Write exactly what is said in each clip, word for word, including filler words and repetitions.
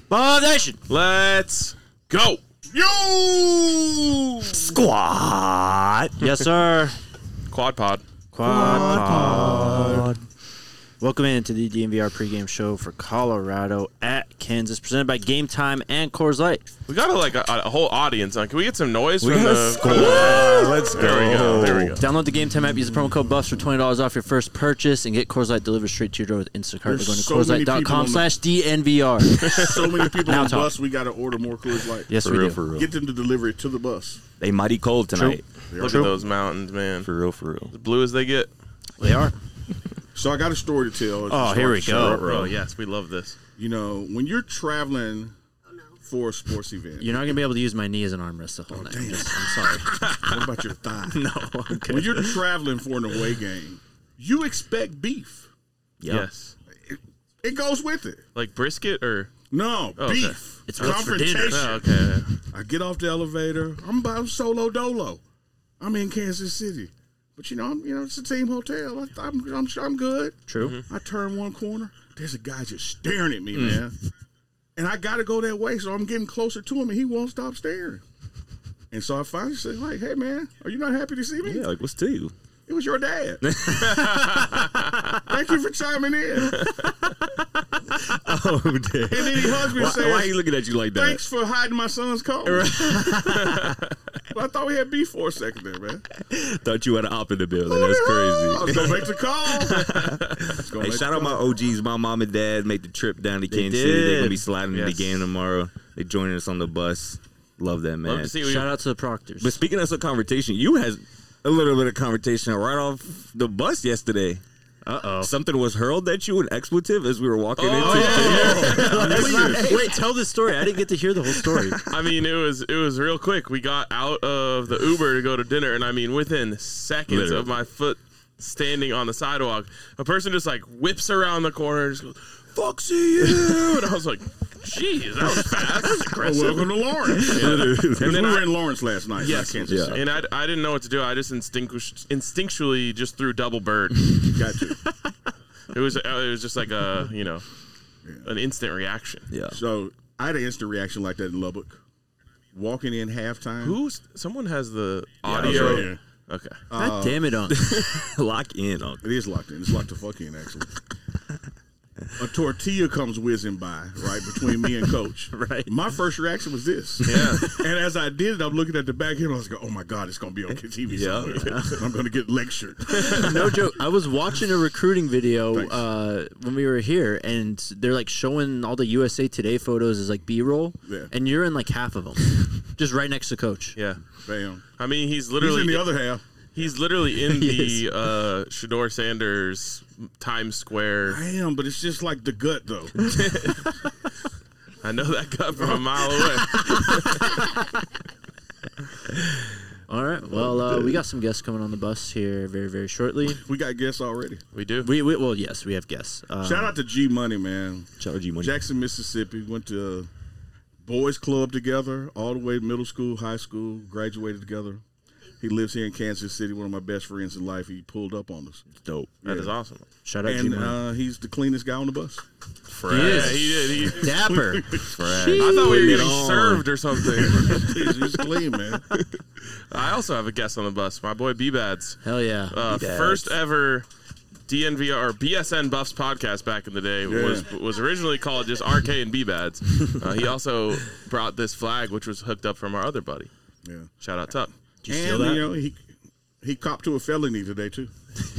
Ball Nation. Let's go. Yo! Squad. Yes, sir. Quad pod. Quad, Quad pod. Welcome into the D N V R pregame show for Colorado at Kansas, presented by Game Time and Coors Light. We got a, like a, a whole audience on. Can we get some noise We from got the a squad. Let's go. There we go. There we go. Download the Game Time app. Use the promo code BUFFS for twenty dollars off your first purchase and get Coors Light delivered straight to your door with Instacart. Going to so Coors many Light dot com people slash D N V R. So many people Now on the talk. bus, we got to order more Coors Light. Yes, For we real, do. for real. Get them to deliver it to the bus. They mighty cold tonight. They Look are. at those mountains, man. For real, for real. As blue as they get. They are. So I got a story to tell. It's Oh, a here we short- go. short- Oh, yes. We love this. You know, when you're traveling for a sports event, You're not going to be able to use my knee as an armrest the whole night. I'm, damn. just, I'm sorry. what about your thigh? No, I'm good. When you're traveling for an away game, you expect beef. Yep. Yes. It, it goes with it. Like brisket or? No, Oh, okay. beef. It's what's for dinner. Confrontation. Oh, okay. I get off the elevator. I'm about solo dolo. I'm in Kansas City, but you know, I'm, you know, it's a team hotel. I, I'm, I'm, I'm good. True. Mm-hmm. I turn one corner. There's a guy just staring at me, man, and I got to go that way. So I'm getting closer to him, and he won't stop staring. And so I finally said, "Like, hey, man, are you not happy to see me? Yeah, like, what's to you? It was your dad. Thank you for chiming in." Oh, damn. And then he hugs me Why, and says, why are you looking at you like that? "Thanks for hiding my son's coat." But I thought we had beef for a second there, man. Thought you had an op in the building. That's I was crazy. gonna make the call. Let's go Hey, make shout the out my call. O Gs. My mom and dad made the trip down to They Kansas City. They're did. going to be sliding in Yes. the game tomorrow. They joining us on the bus. Love that, man. Love to see what Shout you, out to the Proctors. But speaking of some conversation, you had a little bit of conversation right off the bus yesterday. Uh-oh. Something was hurled at you, an expletive, as we were walking Oh, into. Wait, tell the story. I didn't get to hear the whole story. I mean, it was it was real quick. We got out of the Uber to go to dinner, and I mean, within seconds Literally. of my foot standing on the sidewalk, a person just like whips around the corner and just goes, "Fuck see you!" And I was like, "Jeez, that was fast. That's Well, aggressive." welcome to Lawrence. And And then we were I- in Lawrence last night. Yes, not Kansas yeah. City. and I, I didn't know what to do. I just instinctu- instinctually just threw double bird. Got to. It was it was just like a you know an instant reaction. Yeah. So I had an instant reaction like that in Lubbock. Walking in halftime. Who's someone has the I was audio? right here. Okay. God damn it, Unc. Lock in, Uncle. It is locked in. It's locked the fuck in, actually. A tortilla comes whizzing by, right, between me and Coach. Right. My first reaction was this. Yeah. And as I did it, I'm looking at the back here, and I was like, oh, my God, it's going to be on T V Yeah. somewhere. I'm going to get lectured. No joke. I was watching a recruiting video Thanks. uh, when we were here, and they're like showing all the U S A Today photos as like B-roll, Yeah. and you're in like half of them, just right next to Coach. Yeah. Bam. I mean, he's He's literally in the other half. He's literally in He the uh, Shador Sanders Times Square. I am, but it's just like the gut, though. I know that guy from a mile away. All right. Well, uh, we got some guests coming on the bus here very, very shortly. We got guests already. We do. We, we well, yes, we have guests. Um, Shout out to G Money, man. Shout out G Money. Jackson, Mississippi. Went to boys club together, all the way to middle school, high school, graduated together. He lives here in Kansas City, one of my best friends in life. He pulled up on us. Dope. That Yeah. is awesome. Shout out And G-Money. uh, he's the cleanest guy on the bus. Fred. He is. Yeah, he did. He, Dapper. I thought we were Putting it getting on. served or something. he's, he's clean, man. I also have a guest on the bus. My boy B-Bads. Hell yeah. Uh, B-Bads. first ever D N V R or B S N Buffs podcast back in the day was was originally called just R K and B-Bads. Uh, he also brought this flag, which was hooked up from our other buddy. Yeah. Shout out Tuck. Did you And, steal that? you know, he he copped to a felony today, too.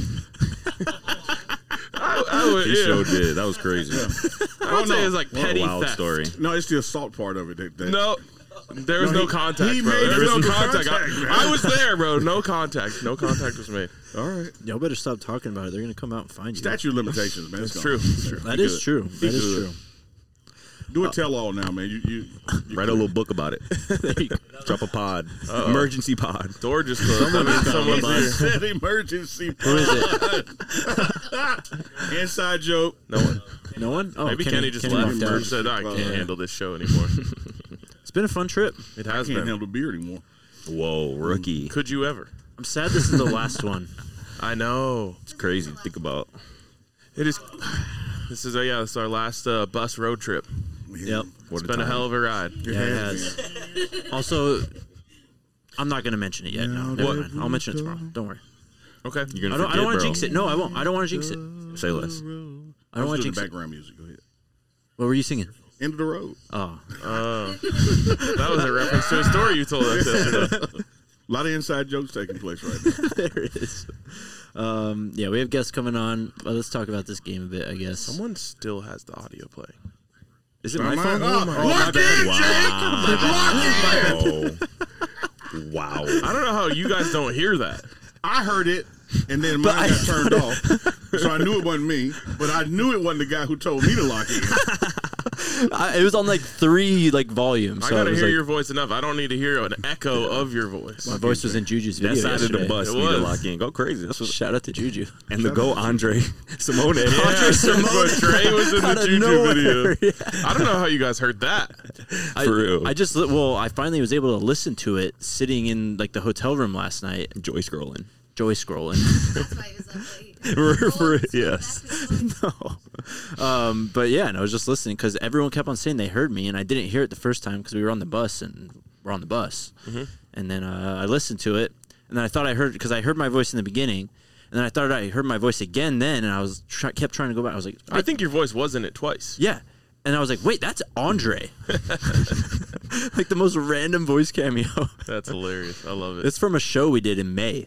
I, I would, He yeah. sure did. That was crazy. I would no. say it's like What a petty wild theft. story. No, it's the assault part of it. That, that, No, there was No, no, he- contact. he bro. made There was no physical contact. contact, I, man. I was there, bro. No contact. No contact was made. All right. Y'all better stop talking about it. They're gonna come out and find you. Statute of limitations, man. It's gone. true. It's true. That Be is good. true. That is good. true. Do a tell-all now, man. You, you, you Write a little book about it. Drop a pod. Emergency pod. Door just closed. I mean, someone's here. said emergency. Who is it? Inside joke. No one. No one? Oh, Maybe Kenny, just Kenny left. walked out. He said, I can't Yeah. handle this show anymore. It's been a fun trip. It I has can't been. handle beer anymore. Whoa, rookie. Could you ever? I'm sad this is the last one. I know. It's crazy to think about. It is. This is, uh, yeah, this is our last uh, bus road trip. Man, Yep. It's been a hell of a ride. It Yeah, it has has. been. Also, I'm not going to mention it yet. No, Now never that mind. I'll mention it tomorrow. Don't worry. Okay. You're gonna I don't. I forget, don't want bro. to jinx it. No, I won't. I don't want to jinx it. Say less. I I don't was want to doing jinx the it. background music. Go ahead. What were you singing? End of the road. Oh, Uh, that was a reference to a story you told us yesterday. A lot of inside jokes taking place right now. there it is. Um, yeah, we have guests coming on. Well, let's talk about this game a bit, I guess. Someone still has the audio playing. Is it Am my I- phone? oh, Oh, lock my in, bad. Wow. Wow. I don't know how you guys don't hear that. I heard it, and then mine got turned off. So I knew it wasn't me, but I knew it wasn't the guy who told me to lock in. I, it was on like three like volumes. I So gotta it was hear like, your voice enough. I don't need to hear an echo of your voice. my voice was in Juju's That video side of yesterday. the bus It need to was. lock in. Go crazy. That's what. Shout out to Juju. And the go Andre Simone. Yeah, Andre Simone. but Trey was in Out the of Juju nowhere. video. Yeah. I don't know how you guys heard that. I, For real. I just li- well, I finally was able to listen to it sitting in like the hotel room last night. Joy scrolling. Joy scrolling. That's why he was up late. For- for- Oh, yes. no. Um, but yeah, and I was just listening because everyone kept on saying they heard me, and I didn't hear it the first time because we were on the bus and we're on the bus. Mm-hmm. And then uh, I listened to it, and then I thought I heard because I heard my voice in the beginning, and then I thought I heard my voice again then, and I was try- kept trying to go back. I was like, I think your voice was in it twice. yeah. And I was like, wait, that's Andre. Like the most random voice cameo. That's hilarious. I love it. It's from a show we did in May.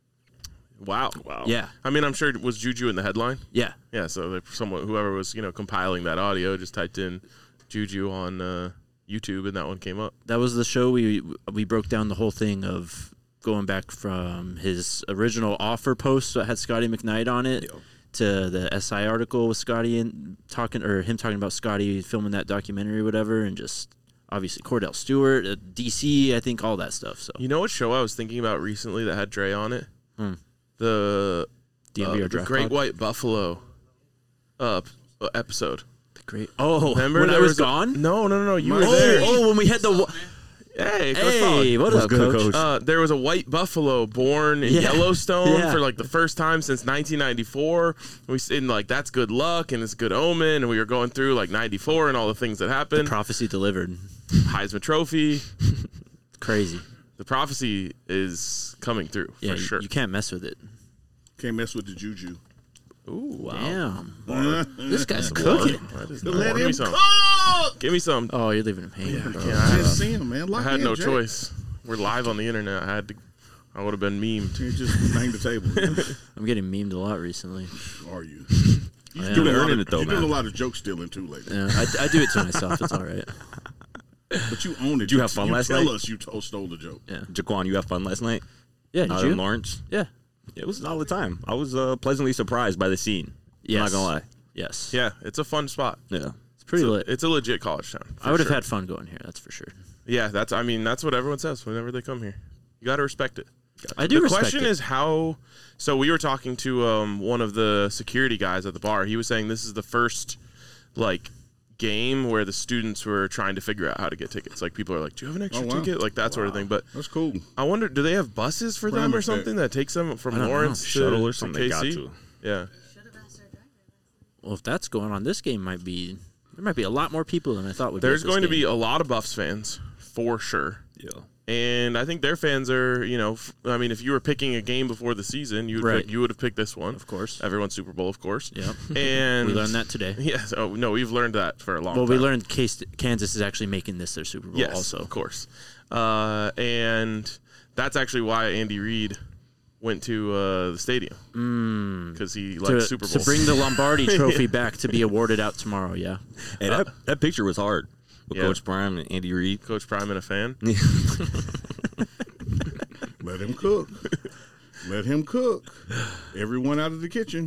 wow. Wow. Yeah. I mean, I'm sure it was Juju in the headline. Yeah. Yeah. So they- someone, whoever was, you know, compiling that audio, just typed in Juju on uh, YouTube, and that one came up. That was the show we we broke down the whole thing of going back from his original offer post that had Scotty McKnight on it to the S I article with Scotty and talking or him talking about Scotty filming that documentary or whatever, and just obviously Cordell Stewart, uh, D C, I think all that stuff. So You know what show I was thinking about recently that had Dre on it? Hmm. The, D M uh, V R the Draft Great Pod? White Buffalo uh, p- uh, episode. great. Oh, Remember when I there was, was a- gone. No, no, no, no. You My- were Oh, there. oh, when we had the. wa- Hey, Coach Hey, Pollock. what What's up, good, coach? Coach? Uh, there was a white buffalo born in Yeah. Yellowstone Yeah. for like the first time since nineteen ninety-four. We said like that's good luck and it's a good omen, and we were going through like ninety-four and all the things that happened. Prophecy delivered. Heisman Trophy. Crazy. The prophecy is coming through Yeah, for you, sure. you can't mess with it. Can't mess with the juju. Ooh, wow. Damn, this guy's cooking. That is Let not- Give him me some. cook. Give me some. Oh, you're leaving him hanging. bro. Yeah, I, Just see him, man. I Lock had in, no Jake. choice. We're live on the internet. I had to. I would have been memed. You just bang the table. I'm getting memed a lot recently. Are you? I You're am. doing, a lot earning of, it, though, you're doing man. a lot of joke stealing too lately. Yeah, I, I do it to myself. It's all right. But you own it. Did you have fun you last tell night? us you told, stole the joke. Yeah. Jaquan, you have fun last night? Yeah, did Out you? in Lawrence? Yeah. It was all the time. I was uh, pleasantly surprised by the scene. Yes. I'm not gonna lie. Yes. Yeah, it's a fun spot. It's Yeah. It's pretty a, lit. it's a legit college town. I would have sure. had fun going here. That's for sure. Yeah, that's. I mean, that's what everyone says whenever they come here. You got to respect it. I do The respect question it. is how. So we were talking to um, one of the security guys at the bar. He was saying this is the first like game where the students were trying to figure out how to get tickets. Like people are like, "Do you have an extra Oh, wow. ticket?" Like that sort of thing. But That's cool. I wonder, do they have buses for them Promise or that. something that takes them from I don't know. Lawrence to Shuttle or to something. They got K C? to. Yeah. Should have asked our driver. Well, if that's going on, this game might be. There might be a lot more people than I thought would. There's be at this going to be game. a lot of Buffs fans for sure. Yeah. And I think their fans are, you know, f- I mean, if you were picking a game before the season, you would Right. pick, you would have picked this one, Of course. Everyone's Super Bowl, of course. Yep. And We learned that today. Yes. Oh no, we've learned that for a long Well, time. we learned Case- Kansas is actually making this their Super Bowl. yes, Also, of course. Uh, and that's actually why Andy Reid went to uh, the stadium because he likes to, Super to Bowls. bring the Lombardi Trophy back to be awarded out tomorrow. Yeah. Hey, that, that picture was hard with Yeah. Coach Prime and Andy Reid. Coach Prime and a fan. Let him cook. Let him cook. Everyone out of the kitchen.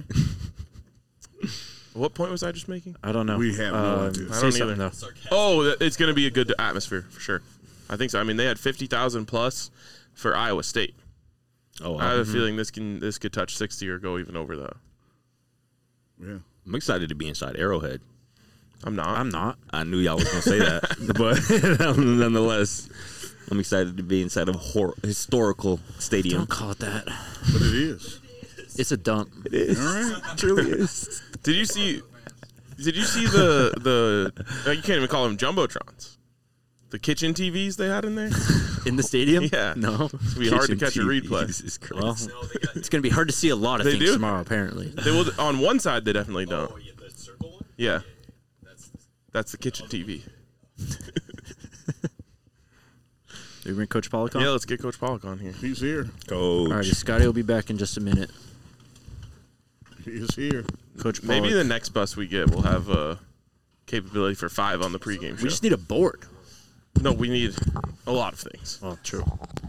What point was I just making? I don't know. We have no Um, idea. I Say don't something either. though. Oh, th- it's going to be a good atmosphere for sure. I think so. I mean, they had fifty thousand plus for Iowa State. Oh, I have wow. a feeling this can this could touch sixty or go even over that. Yeah. I'm excited to be inside Arrowhead. I'm not. I'm not. I knew y'all was gonna say that, but nonetheless, I'm excited to be inside of a hor- historical stadium. Don't call it that. But it is. It's a dump. It is. All right. It truly is. Did you see? Did you see the the? uh, You can't even call them jumbotrons. The kitchen T Vs they had in there. In the stadium? Yeah. No. It's gonna be hard to Kitchen catch a T V, replay. Jesus Christ. Well, it's going to be hard to see a lot of They things do? tomorrow, apparently. They will on one side. They definitely don't. Oh, yeah, the circle one? Yeah. That's the kitchen T V. Do we bring Coach Pollock on? Yeah, let's get Coach Pollock on here. He's here. Coach. All right, Scotty will be back in just a minute. He is here. Coach Pollock. Maybe the next bus we get will have a capability for five on the pregame show. We just need a board. no, we need a lot of things. Well, true.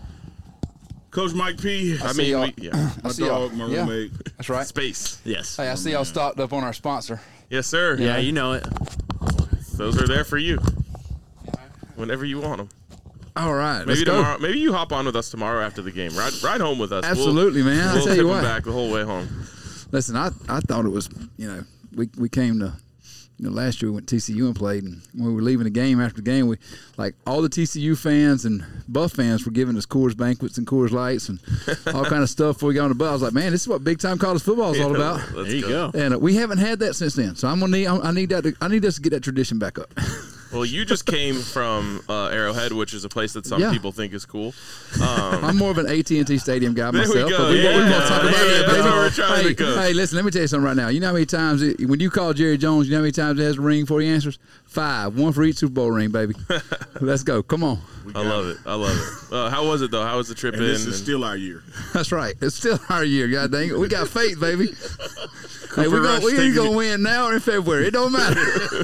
Coach Mike P. I see mean, y'all. we, yeah, My see y'all. dog, my Yeah. roommate. That's right. space. Yes. Hey, I see y'all stocked up on our sponsor. Yes, sir. Yeah, you know it. Those are there for you whenever you want them. All right, Maybe let's go. tomorrow. Maybe you hop on with us tomorrow after the game. Ride, ride home with us. We'll- Absolutely, man. I We'll tell tip you him what. back the whole way home. Listen, I I thought it was, you know, we we came to, you know, last year we went to T C U and played, and when we were leaving the game after the game, we like all the T C U fans and Buff fans were giving us Coors banquets and Coors Lights and all kind of stuff before we got on the bus. I was like, man, this is what big time college football is all about. Let's There you go. And uh, we haven't had that since then, so I'm gonna need I need that to, I need us to get that tradition back up. Well, you just came from uh, Arrowhead, which is a place that some Yeah. people think is cool. Um, I'm more of an A T and T Stadium guy There we myself. go. But we, Yeah. we won't talk about Yeah, that, that's baby. what we're trying to hey, cook. hey, listen, let me tell you something right now. You know how many times it, when you call Jerry Jones, you know how many times it has a ring before he answers? Five. One for each Super Bowl ring, baby. Let's go. Come on. I love it. I love it. Uh, how was it though? How was the trip And in? this is And- still our year. That's right. It's still our year. God dang it. We got faith, baby. hey, we're Rush going we taking going it. to win now or in February. It don't matter.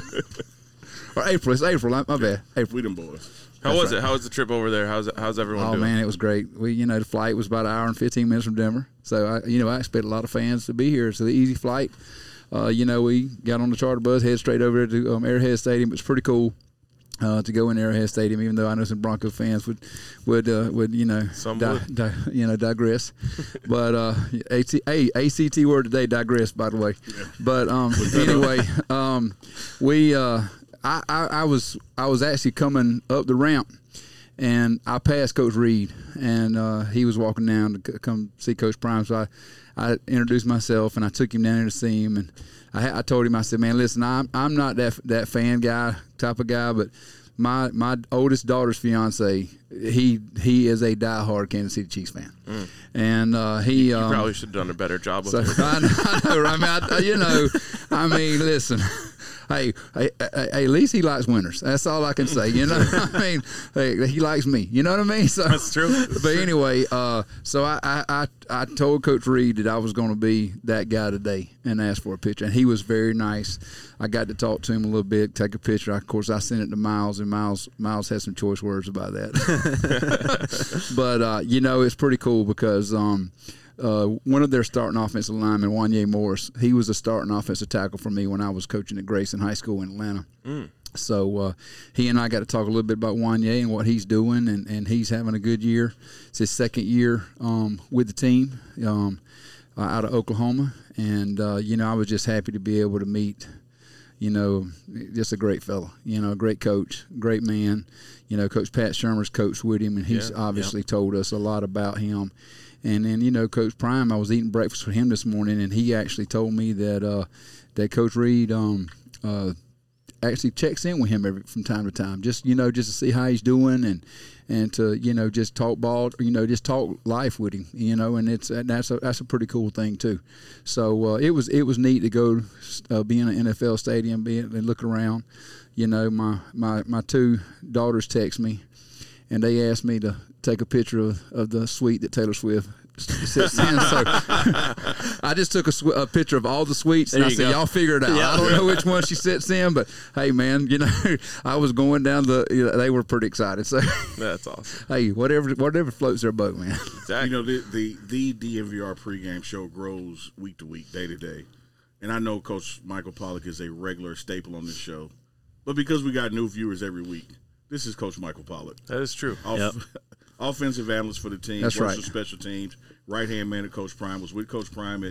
or April. It's April. My bad. April. We them boys. how That's was right. it? How was the trip over there? How's how's everyone Oh doing? man, it was great. We, you know, the flight was about an hour and fifteen minutes from Denver, so I, you know, I expect a lot of fans to be here. It's an easy flight. Uh, you know, we got on the charter bus, head straight over to um, Arrowhead Stadium. It's pretty cool uh, to go in Arrowhead Stadium, even though I know some Broncos fans would would uh, would you know Some di- would. di- you know digress. but uh, A C A A C T word today, digress. By the way, but um, anyway, um, we uh, I, I I was I was actually coming up the ramp. And I passed Coach Reed, and uh, he was walking down to c- come see Coach Prime. So I, I introduced myself, and I took him down there to see him. And I, ha- I told him, I said, "Man, listen, I'm I'm not that that fan guy type of guy, but my my oldest daughter's fiance, he he is a diehard Kansas City Chiefs fan, Mm. and uh, he You um, probably should have done a better job with so it. I, I know, right? I mean, I, you know, I mean, listen. Hey, hey, hey, at least he likes winners. That's all I can say. You know, I mean, hey, he likes me. You know what I mean? So That's true. But anyway, uh, so I, I, I, I told Coach Reed that I was going to be that guy today and asked for a picture, and he was very nice. I got to talk to him a little bit, take a picture. Of course, I sent it to Miles, and Miles, Miles had some choice words about that. but uh, you know, it's pretty cool because. Um, Uh, one of their starting offensive linemen, Wanye Morris, he was a starting offensive tackle for me when I was coaching at Grayson High School in Atlanta. Mm. So uh, he and I got to talk a little bit about Wanye and what he's doing, and, and he's having a good year. It's his second year um, with the team um, uh, out of Oklahoma. And, uh, you know, I was just happy to be able to meet, you know, just a great fella, you know, a great coach, great man. You know, Coach Pat Shermer's coached with him, and he's Yeah, obviously yeah. told us a lot about him. And then, you know, Coach Prime, I was eating breakfast with him this morning, and he actually told me that uh, that Coach Reed um, uh, actually checks in with him every, from time to time, just, you know, just to see how he's doing and and to, you know, just talk ball, you know, just talk life with him, you know, and it's that's a that's a pretty cool thing too. So uh, it was it was neat to go uh, be in an N F L stadium, be and look around. You know, my, my, my two daughters text me, and they asked me to take a picture of, of the suite that Taylor Swift sits in. So I just took a, sw- a picture of all the suites, and There I you said, go. y'all figure it out. Yeah. I don't know which one she sits in, but hey, man, you know, I was going down the, you know, they were pretty excited. So, That's awesome. hey, whatever whatever floats their boat, man. Exactly. You know, the, the, the D N V R pregame show grows week to week, day to day. And I know Coach Michael Pollock is a regular staple on this show. But because we got new viewers every week, this is Coach Michael Pollock. that is true. Off, Yep. Offensive analyst for the team. That's works right. with special teams. Right-hand man of Coach Prime. Was with Coach Prime at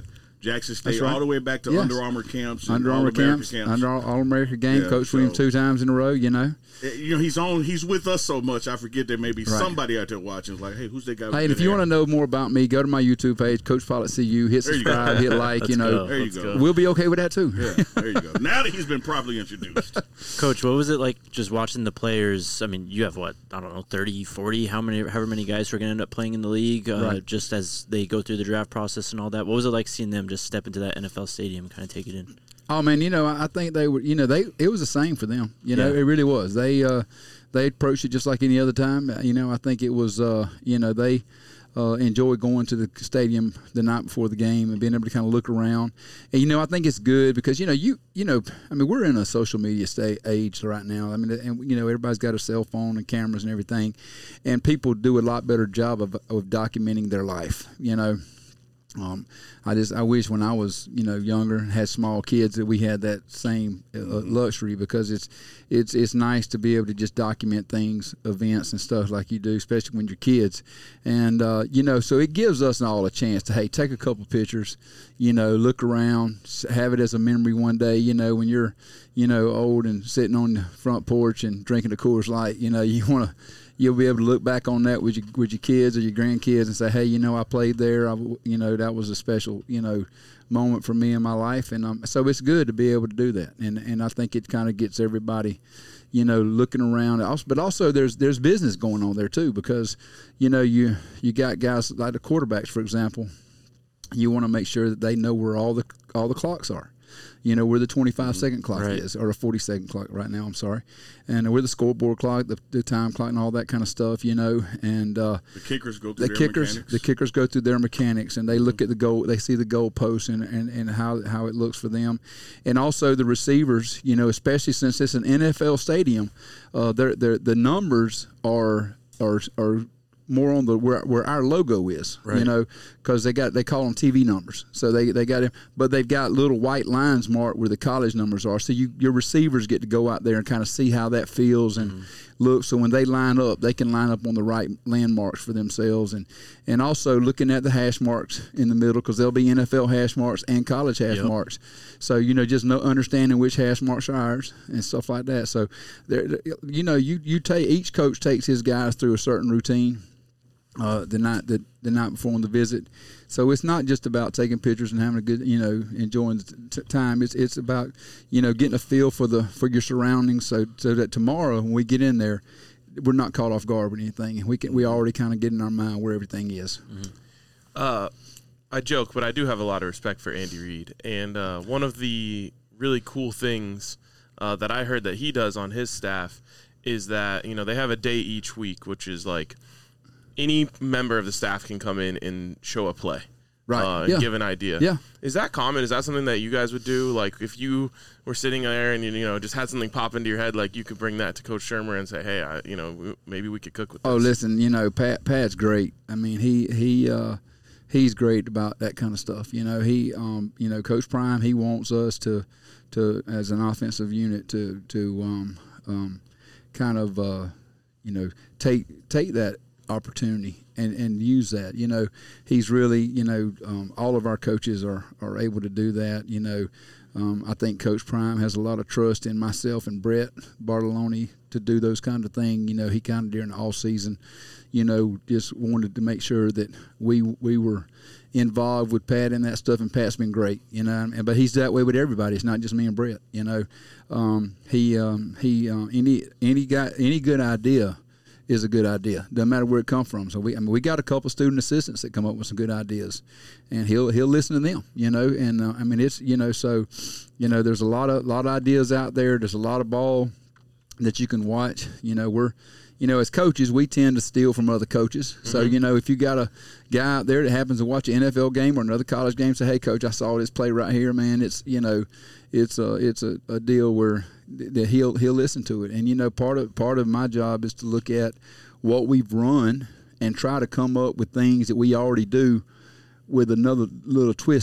Jackson State, right. all the way back to Yes. Under Armour camps, and Under Armour All-American camps, camps. Under All American game, Yeah, coached with him so- two times in a row. You know. You know, he's on. He's with us so much. I forget there may be Right. somebody out there watching. Like, hey, who's that guy? Hey, and if you want to know more about me, go to my YouTube page, Coach Pilot C U. Hit There you subscribe, go. hit like. Let's You know, go. there you Let's go. go. we'll be okay with that too. Yeah, there you go. Now that he's been properly introduced, Coach, what was it like just watching the players? I mean, you have what, I don't know, thirty, forty, how many, however many guys are going to end up playing in the league uh, Right. just as they go through the draft process and all that. What was it like seeing them just step into that N F L stadium and kind of take it in? Oh man, you know, I think they were. You know, they it was the same for them. You know, Yeah. it really was. They uh, they approached it just like any other time. You know, I think it was. Uh, you know, they uh, enjoyed going to the stadium the night before the game and being able to kind of look around. And you know, I think it's good because you know, you you know, I mean, we're in a social media state age right now. I mean, and you know, everybody's got a cell phone and cameras and everything, and people do a lot better job of of documenting their life. You know. Um, I just I wish when I was you know younger and had small kids that we had that same uh, luxury because it's it's it's nice to be able to just document things, events and stuff like you do, especially when you're kids, and uh, you know so it gives us all a chance to hey take a couple pictures, you know look around, have it as a memory one day, you know when you're you know old and sitting on the front porch and drinking a Coors Light, you know you want to. You'll be able to look back on that with your with your kids or your grandkids and say, hey, you know, I played there. I, you know, that was a special, you know, moment for me in my life. And um, so it's good to be able to do that. And and I think it kind of gets everybody, you know, looking around. Also, but also there's there's business going on there too because, you know, you you got guys like the quarterbacks, for example. You want to make sure that they know where all the all the clocks are. You know, where the twenty-five second clock Right. is, or the forty second clock right now, I'm sorry. And where the scoreboard clock, the, the time clock, and all that kind of stuff, you know. And uh, the kickers go through the their kickers mechanics. the kickers go through their mechanics and they look at the goal, they see the goal post and, and, and how, how it looks for them. And also the receivers, you know, especially since it's an N F L stadium, uh, they're, they're, the numbers are are are more on the where, where our logo is, you Right. know, because they got they call them T V numbers. So they they got it, but they've got little white lines marked where the college numbers are. So you your receivers get to go out there and kind of see how that feels and Mm-hmm. look. So when they line up, they can line up on the right landmarks for themselves, and and also looking at the hash marks in the middle because there'll be N F L hash marks and college hash Yep. marks. So you know, just know understanding which hash marks are ours and stuff like that. So there, you know, you you take each coach takes his guys through a certain routine. Uh, the night the, the night before on the visit, so it's not just about taking pictures and having a good, you know, enjoying the t- time. It's it's about, you know, getting a feel for the for your surroundings, so so that tomorrow when we get in there, we're not caught off guard with anything, and we can we already kind of get in our mind where everything is. Uh, I joke, but I do have a lot of respect for Andy Reid. And uh, one of the really cool things uh, that I heard that he does on his staff is that, you know, they have a day each week, which is like any member of the staff can come in and show a play. Right. Uh, Yeah. and give an idea. Yeah. Is that common? Is that something that you guys would do? Like if you were sitting there and you, you know just had something pop into your head, like you could bring that to Coach Shermer and say, hey, I, you know, w- maybe we could cook with this. Oh, listen, you know, Pat Pat's great. I mean, he he uh, he's great about that kind of stuff. You know, he um, you know, Coach Prime, he wants us to to as an offensive unit to to um, um, kind of uh, you know take take that opportunity and, and use that. You know, he's really, you know, um, all of our coaches are, are able to do that. You know, um, I think Coach Prime has a lot of trust in myself and Brett Bartolone to do those kind of things. You know, he kind of during the off season, you know, just wanted to make sure that we we were involved with Pat and that stuff, and Pat's been great, you know. And, but he's that way with everybody. It's not just me and Brett, you know. Um, he um, he uh, any any guy any good idea is a good idea. Doesn't matter where it comes from. So we, I mean, we got a couple student assistants that come up with some good ideas, and he'll he'll listen to them, you know. And uh, I mean, it's you know, so you know, there's a lot of lot of ideas out there. There's a lot of ball that you can watch. You know, we're you know, as coaches, we tend to steal from other coaches. So you know, if you got a guy out there that happens to watch an N F L game or another college game, say, hey, coach, I saw this play right here, man. It's you know, it's a it's a, a deal where that he'll he'll listen to it. And you know, part of part of my job is to look at what we've run and try to come up with things that we already do with another little twist to it.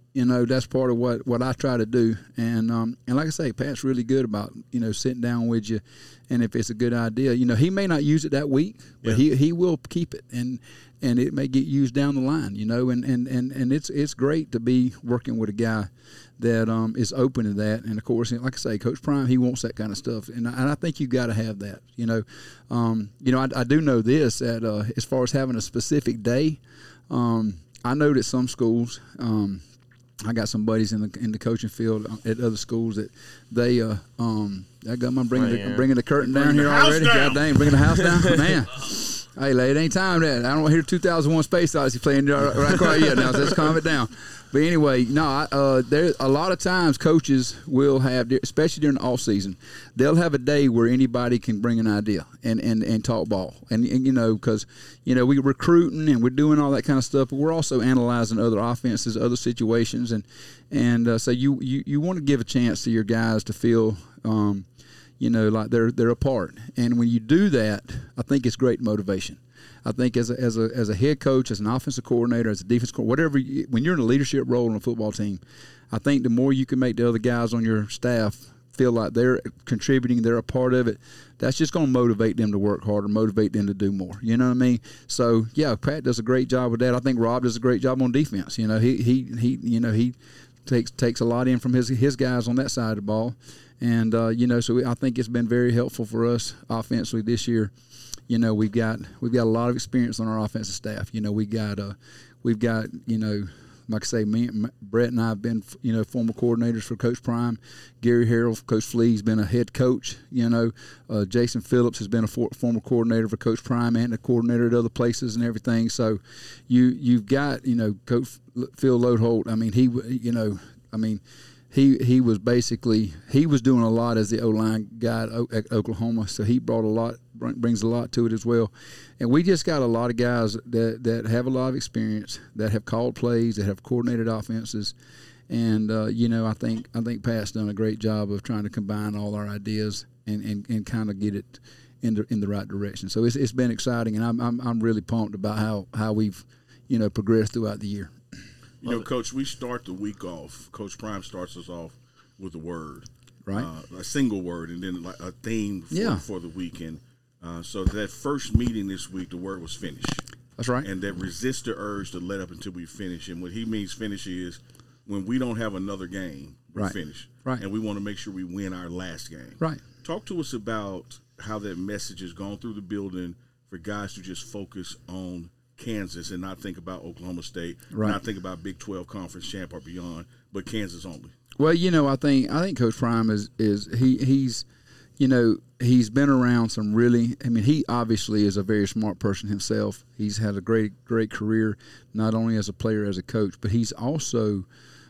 You know, that's part of what, what I try to do. And um, and like I say, Pat's really good about, you know, sitting down with you. And if it's a good idea, you know, he may not use it that week, but yeah. he he will keep it. And and it may get used down the line, you know. And, and, and, and it's it's great to be working with a guy that um, is open to that. And, of course, like I say, Coach Prime, he wants that kind of stuff. And I, and I think you've got to have that, you know. Um, you know, I, I do know this, that uh, as far as having a specific day, um, I know that some schools um, – I got some buddies in the in the coaching field at other schools that they uh um I got my bringing the, bringing the curtain down here already. God dang, bringing the house down, man. Hey, lad, it ain't time that. I don't want to hear two thousand one Space Odyssey playing right quite yet now, so let's calm it down. But anyway, no, I, uh, there a lot of times coaches will have, especially during the off season, they'll have a day where anybody can bring an idea and, and, and talk ball, and, and you know, because you know we're recruiting and we're doing all that kind of stuff, but we're also analyzing other offenses, other situations, and and uh, so you, you you want to give a chance to your guys to feel. Um, You know, like they're they're a part, and when you do that, I think it's great motivation. I think as a as a as a head coach, as an offensive coordinator, as a defense coordinator, whatever, you, when you're in a leadership role on a football team, I think the more you can make the other guys on your staff feel like they're contributing, they're a part of it, that's just going to motivate them to work harder, motivate them to do more. You know what I mean? So yeah, Pat does a great job with that. I think Rob does a great job on defense. You know, he he he you know he takes takes a lot in from his his guys on that side of the ball. And, uh, you know, so we, I think it's been very helpful for us offensively this year. You know, we've got we've got a lot of experience on our offensive staff. You know, we got uh, we've got, you know, like I say, me, Brett and I have been, you know, former coordinators for Coach Prime. Gary Harrell, Coach Flea has been a head coach. You know, uh, Jason Phillips has been a for, former coordinator for Coach Prime and a coordinator at other places and everything. So you, you've got, you know, Coach Phil Lodeholt. I mean, he, you know, I mean, He he was basically he was doing a lot as the O-line guy at Oklahoma, so he brought a lot brings a lot to it as well. And we just got a lot of guys that, that have a lot of experience, that have called plays, that have coordinated offenses, and uh, you know I think I think Pat's done a great job of trying to combine all our ideas and, and, and kind of get it in the in the right direction. So it's it's been exciting, and I'm I'm I'm really pumped about how, how we've you know progressed throughout the year. You know, Coach, we start the week off. Coach Prime starts us off with a word, right? Uh, a single word, and then like a theme for, yeah. for the weekend. Uh, so that first meeting this week, the word was finish. That's right. And that resist the urge to let up until we finish. And what he means finish is when we don't have another game, we right. finish. Right. And we want to make sure we win our last game. Right. Talk to us about how that message has gone through the building for guys to just focus on Kansas and not think about Oklahoma State, right. not think about Big twelve conference champ or beyond, but Kansas only. Well, you know, I think I think Coach Prime is is he he's, you know, he's been around some really. I mean, he obviously is a very smart person himself. He's had a great great career, not only as a player as a coach, but he's also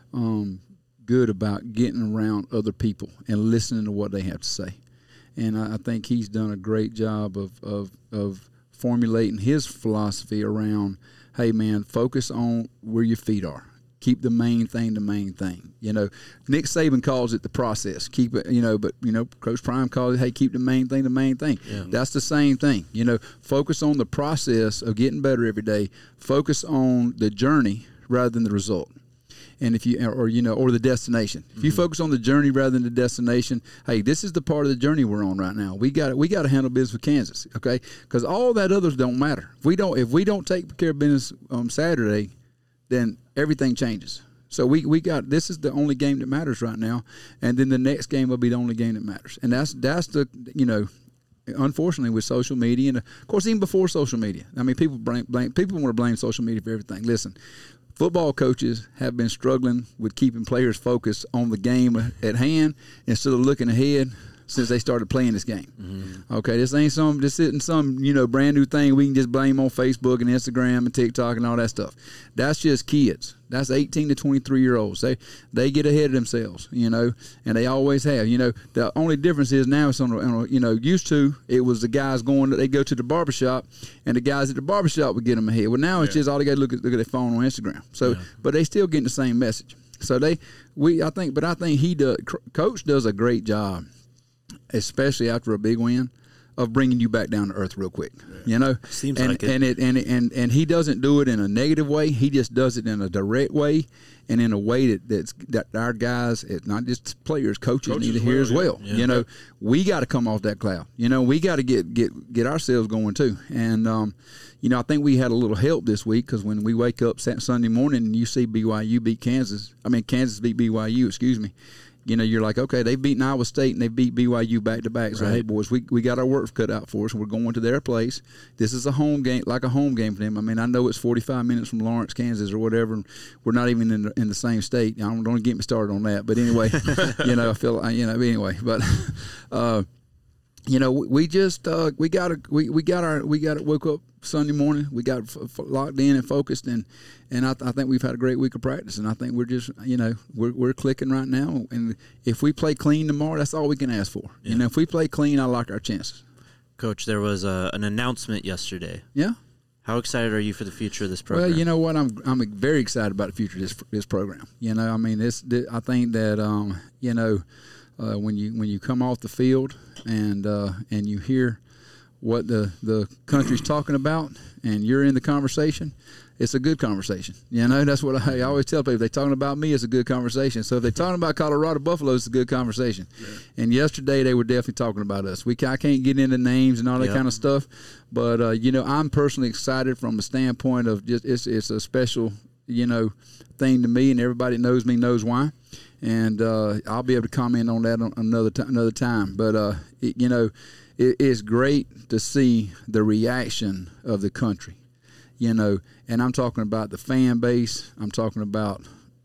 um, good about getting around other people and listening to what they have to say. And I, I think he's done a great job of of of. formulating his philosophy around, hey man, focus on where your feet are. Keep the main thing the main thing. You know, Nick Saban calls it the process. Keep it, you know, but you know, Coach Prime calls it, hey, keep the main thing the main thing. Yeah. That's the same thing. You know, focus on the process of getting better every day. Focus on the journey rather than the result. And if you, or you know, or the destination. If you mm-hmm. focus on the journey rather than the destination, hey, this is the part of the journey we're on right now. We got we got to handle business with Kansas, okay? Because all that others don't matter. If we don't, if we don't take care of business on Saturday, then everything changes. So we, we got this is the only game that matters right now, and then the next game will be the only game that matters. And that's that's the you know. Unfortunately, with social media, and of course, even before social media, I mean, people blame, blame people want to blame social media for everything. Listen, football coaches have been struggling with keeping players focused on the game at hand instead of looking ahead since they started playing this game. Mm-hmm. Okay, this ain't some this isn't some you know brand new thing we can just blame on Facebook and Instagram and TikTok and all that stuff. That's just kids. That's eighteen to twenty-three year olds. They they get ahead of themselves, you know, and they always have. You know, the only difference is now it's on, a, on a, you know, used to it was the guys going, they go to the barbershop and the guys at the barbershop would get them ahead. Well, now it's yeah. just all they got to look at look at their phone on Instagram. So, yeah. but they still getting the same message. So they we I think, but I think he does. Coach does a great job, especially after a big win, of bringing you back down to earth real quick. You know, Seems and, like it. and it and and and he doesn't do it in a negative way. He just does it in a direct way, and in a way that that's that our guys, it's not just players, coaches, Coaches need to as hear well, as yeah. well. Yeah. You know, we got to come off that cloud. You know, we got to get get get ourselves going too. And um, you know, I think we had a little help this week because when we wake up Sat- Sunday morning and you see B Y U beat Kansas, I mean Kansas beat B Y U. Excuse me. You know, you're like, okay, they've beaten Iowa State and they beat B Y U back to back. So, Right. hey, boys, we, we got our work cut out for us. We're going to their place. This is a home game, like a home game for them. I mean, I know it's forty-five minutes from Lawrence, Kansas, or whatever. And we're not even in the, in the same state. I don't, don't get me started on that. But anyway, you know, I feel like, you know, anyway. But, uh, you know, we, we just uh, we got to we, we got our we got to woke up Sunday morning. We got f- f- locked in and focused, and and I, th- I think we've had a great week of practice, and I think we're just you know we're we're clicking right now. And if we play clean tomorrow, that's all we can ask for. Yeah. You know, if we play clean, I like our chances. Coach, there was a, an announcement yesterday. Yeah. How excited are you for the future of this program? Well, you know what, I'm I'm very excited about the future of this this program. You know, I mean, this, this I think that um, you know uh, when you when you come off the field and uh, and you hear what the the country's talking about and you're in the conversation, it's a good conversation. You know, that's what I, I always tell people. If they're talking about me, it's a good conversation. So if they're talking about Colorado Buffaloes, it's a good conversation. Yeah. And yesterday they were definitely talking about us. We I can't get into names and all that Yep. kind of stuff, but uh, you know, I'm personally excited from a standpoint of just it's it's a special you know thing to me, and everybody that knows me knows why. And uh, I'll be able to comment on that on another t- another time. But uh, it, you know, it, it's great to see the reaction of the country. You know, and I'm talking about the fan base. I'm talking about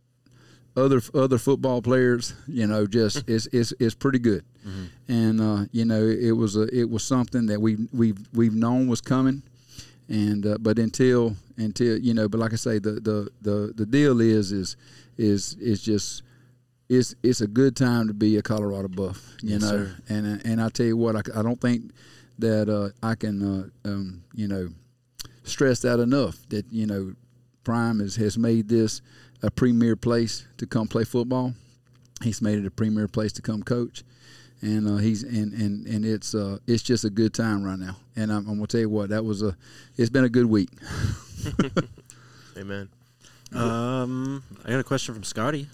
other other football players. You know, just it's it's it's pretty good. Mm-hmm. And uh, you know, it was a it was something that we we've we've known was coming. And uh, but until until you know, but like I say, the the the, the deal is is is is just. It's it's a good time to be a Colorado Buff, you Yes, know, sir. and and I tell you what, I, I don't think that uh, I can, uh, um, you know, stress that enough. That you know, Prime has, has made this a premier place to come play football. He's made it a premier place to come coach, and uh, he's and, and, and it's uh, it's just a good time right now. And I'm, I'm gonna tell you what, that was a it's been a good week. Amen. um, I got a question from Scotty.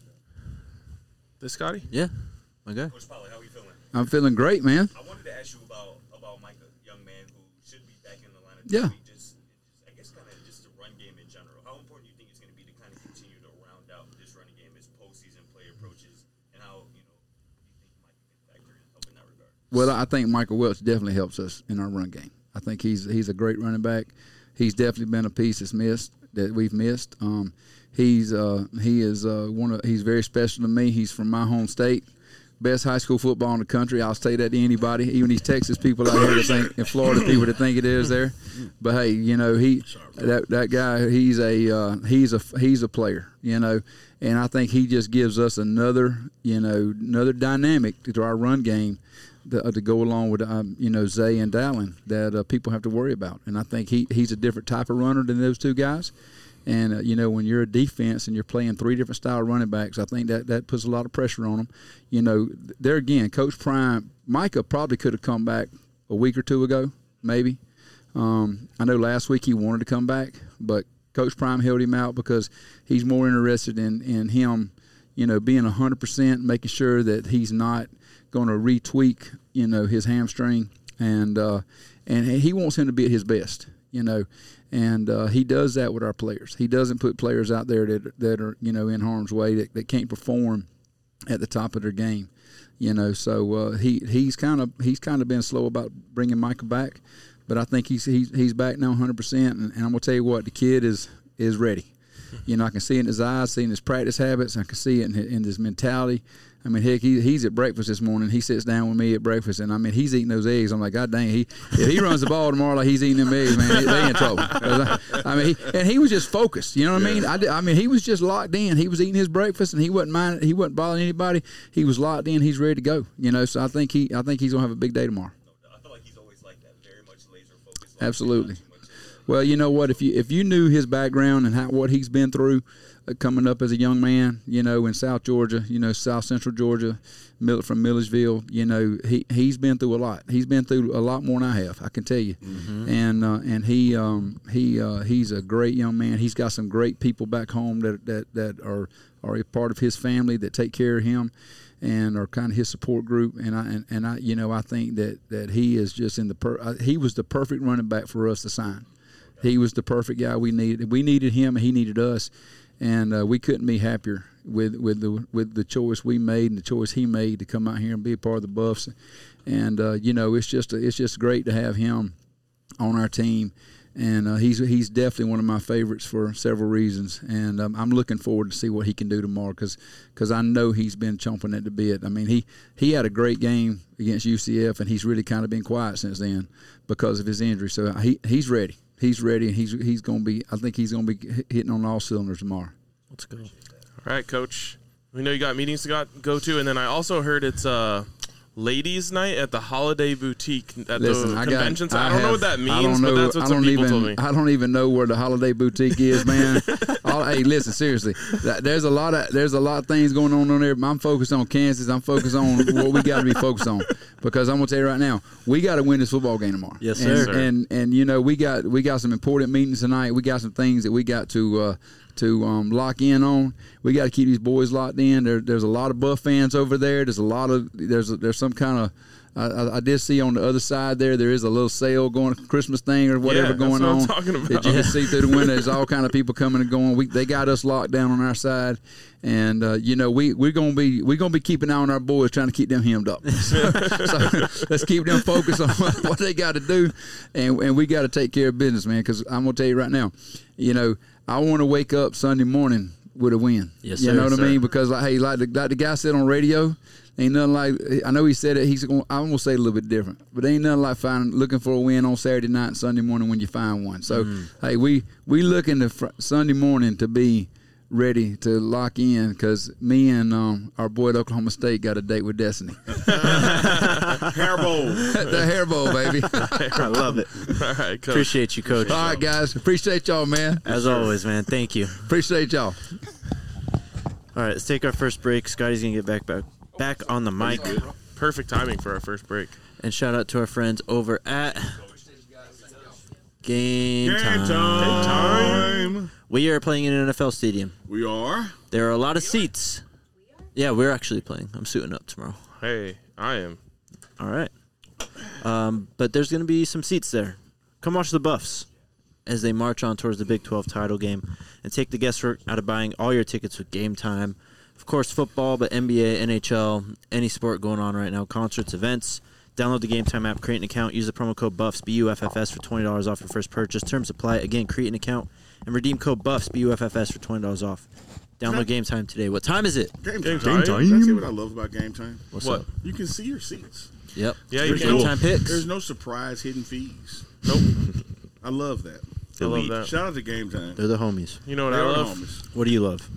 This Scotty? Yeah, my guy. Coach Pollard, how are you feeling? I'm feeling great, man. I wanted to ask you about about Mike, a young man who should be back in the lineup. Yeah. This week. Just, just, I guess, kind of just the run game in general. How important do you think it's going to be to kind of continue to round out this running game as postseason play approaches, and how you know you think Mike can factor in help in that regard? Well, I think Michael Welch definitely helps us in our run game. I think he's he's a great running back. He's definitely been a piece that's missed that we've missed. Um, he's uh, he is uh, one of he's very special to me. He's from my home state, best high school football in the country. I'll say that to anybody, even these Texas people out here that think, in Florida people that think it is there. But hey, you know he that that guy he's a uh, he's a he's a player, you know, and I think he just gives us another you know another dynamic to our run game. The, uh, to go along with um, you know Zay and Dallin that uh, people have to worry about, and I think he he's a different type of runner than those two guys. And uh, you know when you're a defense and you're playing three different style running backs, I think that that puts a lot of pressure on them. You know, there again, Coach Prime, Micah probably could have come back a week or two ago, maybe. Um, I know last week he wanted to come back, but Coach Prime held him out because he's more interested in in him, you know, being a hundred percent, making sure that he's not going to retweak, you know, his hamstring, and uh, and he wants him to be at his best, you know, and uh, he does that with our players. He doesn't put players out there that that are you know in harm's way that, that can't perform at the top of their game, you know. So uh, he he's kind of he's kind of been slow about bringing Michael back, but I think he's he's he's back now one hundred percent, and, and I'm gonna tell you what, the kid is is ready. You know, I can see it in his eyes, see it in his practice habits. I can see it in his, in his mentality. I mean, heck, he, he's at breakfast this morning. He sits down with me at breakfast, and I mean, he's eating those eggs. I'm like, God dang, he if he runs the ball tomorrow like he's eating them eggs, man, they in trouble. I, I mean, he, and he was just focused. You know what I mean? I, did, I mean, he was just locked in. He was eating his breakfast, and he wasn't minding. He wasn't bothering anybody. He was locked in. He's ready to go. You know, so I think he, I think he's gonna have a big day tomorrow. I feel like he's always like that. very much laser focused. Absolutely. Well, you know what? If you if you knew his background and how, what he's been through, uh, coming up as a young man, you know, in South Georgia, you know, South Central Georgia, Mill, from Milledgeville, you know, he he's been through a lot. He's been through a lot more than I have, I can tell you. Mm-hmm. And uh, and he um, he uh, he's a great young man. He's got some great people back home that that that are are a part of his family that take care of him and are kind of his support group. And I and, and I you know I think that that he is just in the per, uh, he was the perfect running back for us to sign. He was the perfect guy we needed. We needed him, and he needed us, and uh, we couldn't be happier with with the with the choice we made and the choice he made to come out here and be a part of the Buffs. And uh, you know, it's just it's just great to have him on our team, and uh, he's he's definitely one of my favorites for several reasons. And um, I'm looking forward to see what he can do tomorrow, because because I know he's been chomping at the bit. I mean, he he had a great game against U C F, and he's really kind of been quiet since then because of his injury. So he he's ready. He's ready, and he's he's going to be. I think he's going to be hitting on all cylinders tomorrow. Let's go. All right, Coach. We know you got meetings to got, go to, and then I also heard it's uh, ladies' night at the Holiday Boutique at Listen, the I convention. got, center. I, I don't have, know what that I means, don't know, but that's what I some don't people even, told me. I don't even know where the Holiday Boutique is, man. All, hey, listen, seriously. That, there's a lot of there's a lot of things going on on there. I'm focused on Kansas. I'm focused on what we got to be focused on, because I'm gonna tell you right now, we got to win this football game tomorrow. Yes, and, sir. And and you know we got we got some important meetings tonight. We got some things that we got to. Uh, to um, lock in on. We got to keep these boys locked in. There, there's a lot of Buff fans over there. There's a lot of there's a, there's some kind of I, I did see on the other side there there is a little sale going, Christmas thing or whatever Yeah, that's going what I'm on. talking about. That you can see through the window. There's all kind of people coming and going. We they got us locked down on our side, and uh, you know we we're gonna be we're gonna be keeping an eye on our boys, trying to keep them hemmed up. So, so let's keep them focused on what, what they got to do, and and we got to take care of business, man. Because I'm gonna tell you right now, you know. I want to wake up Sunday morning with a win. Yes, you sir, know what sir. I mean? Because like, hey, like the, like the guy said on radio, ain't nothing like. I know he said it. He's going. I'm gonna say it a little bit different, but ain't nothing like finding looking for a win on Saturday night and Sunday morning when you find one. So Mm. hey, we we looking to fr- Sunday morning to be ready to lock in, because me and um, our boy at Oklahoma State got a date with Destiny. Hair bowl. The hair bowl, baby. I love it. All right, Coach. Appreciate you, Coach. All right, guys. Appreciate y'all, man. As always, man. Thank you. Appreciate y'all. All right, let's take our first break. Scotty's gonna get back back back on the mic. Perfect timing for our first break. And shout out to our friends over at Game, Game Time. time. We are playing in an N F L stadium. We are. There are a lot of seats. Yeah, we're actually playing. I'm suiting up tomorrow. Hey, I am. All right. Um, but there's going to be some seats there. Come watch the Buffs as they march on towards the Big twelve title game, and take the guesswork out of buying all your tickets with Game Time. Of course, football, but N B A, N H L, any sport going on right now, concerts, events. Download the Game Time app, create an account, use the promo code BUFFS, B U F F S, for twenty dollars off your first purchase. Terms apply. Again, create an account and redeem code BUFFS, B U F F S, for twenty dollars off. Download Game Time today. What time is it? Game, Game time. time. That's what I love about game time. What's What? up? You can see your seats. Yep. Yeah, you There's can. Game no- Time picks. There's no surprise hidden fees. Nope. I love that. I love that. Shout out to Game Time. They're the homies. You know what They I are the love? homies. What do you love?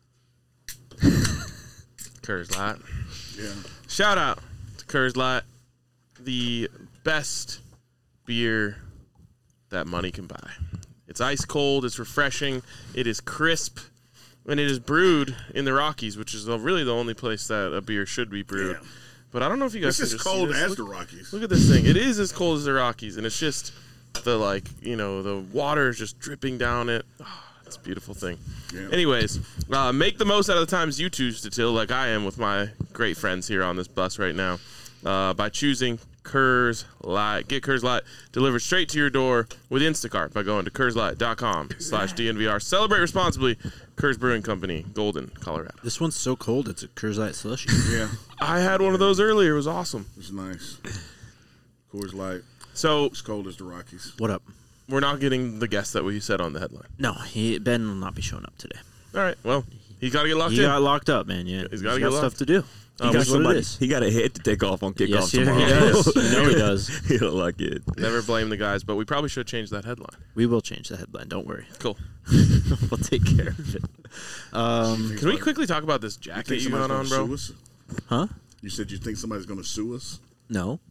Coors Light. Yeah. Shout out to Coors Light, the best beer that money can buy. It's ice cold, it's refreshing, it is crisp, and it is brewed in the Rockies, which is the- really the only place that a beer should be brewed. Yeah. But I don't know if you guys It's can as just see cold this. as Look- the Rockies. Look at this thing. It is as cold as the Rockies, and it's just the, like, you know, the water is just dripping down it. Oh, it's a beautiful thing. Yeah. Anyways, uh, make the most out of the times you choose to till, like I am with my great friends here on this bus right now, uh, by choosing Coors Light. Get Coors Light delivered straight to your door with Instacart by going to CoorsLight.com slash DNVR. Celebrate responsibly. Coors Brewing Company, Golden, Colorado. This one's so cold, it's a Coors Light slushy. Yeah. I had one of those earlier. It was awesome. It's nice. Coors Light. So As cold as the Rockies. What up? we're not getting the guest that we said on the headline. No, he, Ben will not be showing up today. All right. Well, he's got to get locked He in. got locked up, man. Yeah, He's gotta get got locked. stuff to do. He Uh, got we- what it is. He got a hit to take off on kickoff Yes, yeah, tomorrow. he does. You know he does. He don't like it. Never blame the guys, but we probably should change that headline. We will change the headline. Don't worry. Cool. We'll take care of it. Um, Can we quickly talk about this You jacket think you somebody's got going on, to bro? sue us? huh? You said you think somebody's going to sue us? No.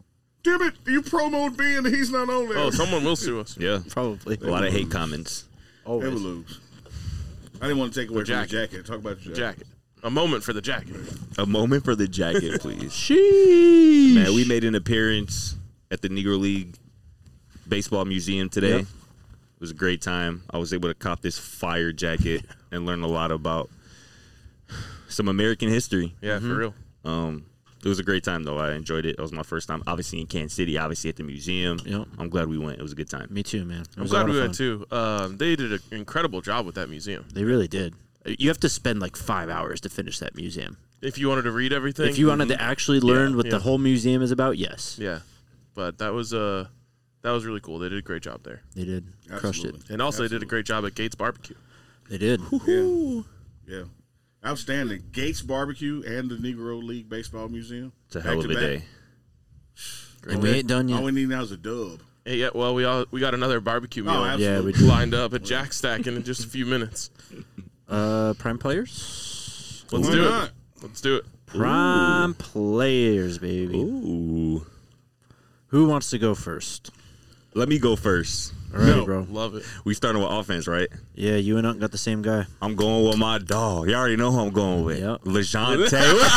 Damn it! You promoted Ben and he's not on there. Oh, someone will sue us. Yeah, Probably. a lot of hate comments. They will Always. lose. I didn't want to take away from the jacket. jacket. Talk about your jacket. Jacket. A moment for the jacket. A moment for the jacket, please. Sheesh. Man, we made an appearance at the Negro League Baseball Museum today. Yep. It was a great time. I was able to cop this fire jacket and learn a lot about some American history. Yeah, for real. Um, it was a great time, though. I enjoyed it. It was my first time, obviously, in Kansas City, obviously at the museum. Yep. I'm glad we went. It was a good time. Me too, man. It I'm was a glad lot we of went fun. too. Um, they did an incredible job with that museum. They really did. You have to spend like five hours to finish that museum. If you wanted to read everything, If you wanted to actually learn Yeah, what yeah. the whole museum is about, yes, yeah. But that was uh, that was really cool. They did a great job there, they did. Crushed it. Absolutely. and also they did a Absolutely. great job at Gates Barbecue. They did. Yeah. Yeah. Outstanding. Gates Barbecue and the Negro League Baseball Museum. It's a hell of a Back to day. back. And we ain't done All yet. we need now is a dub. Hey, yeah, well, we all we got another barbecue meal Oh, absolutely. Yeah, we we do. lined up at Jack Stacking in just a few minutes. Uh, prime players. Let's Why do not? it. Let's do it. Prime players, baby. Ooh. Who wants to go first? Let me go first. All right, No. bro. Love it. We starting with offense, right? Yeah, you and Unc got the same guy. I'm going with my dog. You already know who I'm going with. Yep. LeJohn Taylor.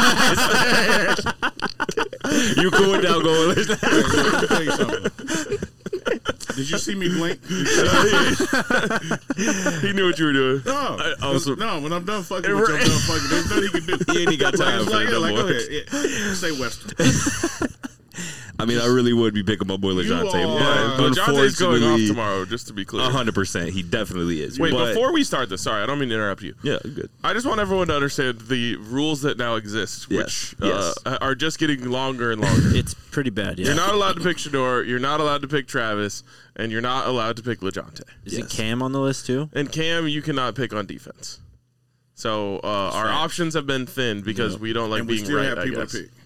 You cool with that? I'm going with LeJohn. Let me tell you something. Did you see me blink? Did you see- He knew what you were doing. No, also- no. When I'm done fucking with you, I'm done fucking. There's nothing he can do. He ain't even got Like, time it's for like, it yeah, no like, more. go ahead. Yeah. Say Western. I mean, I really would be picking my boy LeJohn Taylor, are- but Uh, Jonte's going off unfortunately, tomorrow, just to be clear. A hundred percent, he definitely is. Wait, But- before we start this, sorry, I don't mean to interrupt you. yeah, good. I just want everyone to understand the rules that now exist, Yes, which uh, yes. are just getting longer and longer. It's pretty bad. Yeah. You're not allowed to pick Shador, you're not allowed to pick Travis, and you're not allowed to pick LeJohn. Is Yes. it Cam on the list too? And Cam, you cannot pick on defense. So uh, our right. options have been thinned because we don't like And we being still right, have I people guess. to pick.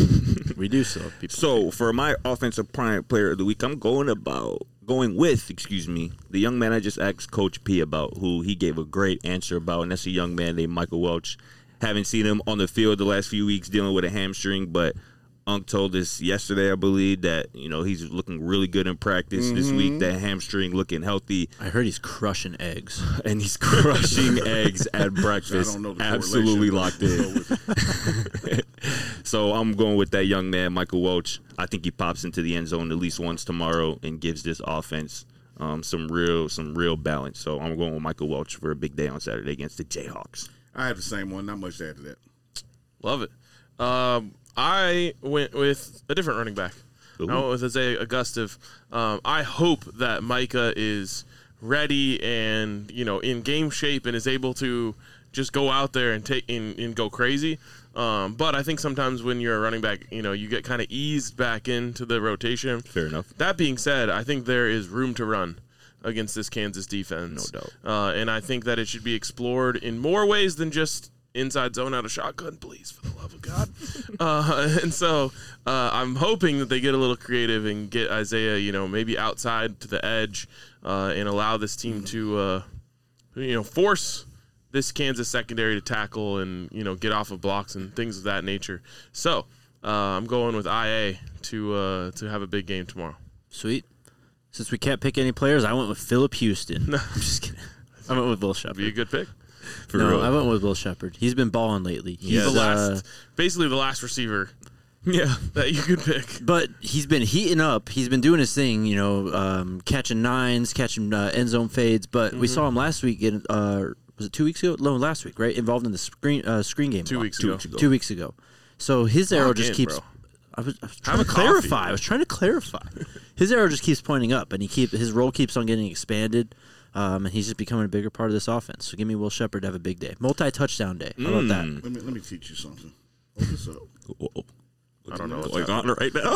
We do still have people. So for my offensive prime player of the week, I'm going about going with, excuse me, the young man I just asked Coach P about, who he gave a great answer about, and that's a young man named Michael Welch. Haven't seen him on the field the last few weeks dealing with a hamstring, but Unc told us yesterday, I believe, that you know he's looking really good in practice this week. That hamstring looking healthy, I heard he's crushing eggs. and he's crushing eggs at breakfast. I don't know the Absolutely correlation, locked but in. go with it. So I'm going with that young man, Michael Welch. I think he pops into the end zone at least once tomorrow and gives this offense um, some real some real balance. So I'm going with Michael Welch for a big day on Saturday against the Jayhawks. I have the same one. Not much to add to that. Love it. Um, I went with a different running back. Ooh. I went with Isaiah Augustive. Um, I hope that Micah is ready and you know in game shape and is able to just go out there and take and, and go crazy. Um, but I think sometimes when you're a running back, you know, you get kind of eased back into the rotation. Fair enough. That being said, I think there is room to run against this Kansas defense. No doubt. Uh, and I think that it should be explored in more ways than just inside zone out of shotgun, please, for the love of God. uh, and so uh, I'm hoping that they get a little creative and get Isaiah, you know, maybe outside to the edge uh, and allow this team to, uh, you know, force this Kansas secondary to tackle and, you know, get off of blocks and things of that nature. So uh, I'm going with I A to uh, to have a big game tomorrow. Sweet. Since we can't pick any players, I went with Philip Houston. No, I'm just kidding. I went with Will Shepard. Be a good pick. For no, real. I went with Will Shepard. He's been balling lately. He's the last, uh, basically the last receiver Yeah. that you could pick. but he's been heating up. He's been doing his thing, you know, um, catching nines, catching uh, end zone fades. But we saw him last week. In, uh, was it two weeks ago? No, last week, right? Involved in the screen uh, screen game. Two block. weeks Two ago. weeks ago. Two weeks ago. So his arrow Lock just in, keeps. bro. I was, I was trying Have to a coffee. clarify. I was trying to clarify. His arrow just keeps pointing up, and he keep his role keeps on getting expanded, um, and he's just becoming a bigger part of this offense. So give me Will Shepard to have a big day, multi-touchdown day. How about that? Let me let me teach you something. Hold this up. Whoa. I don't know what's Going on right now.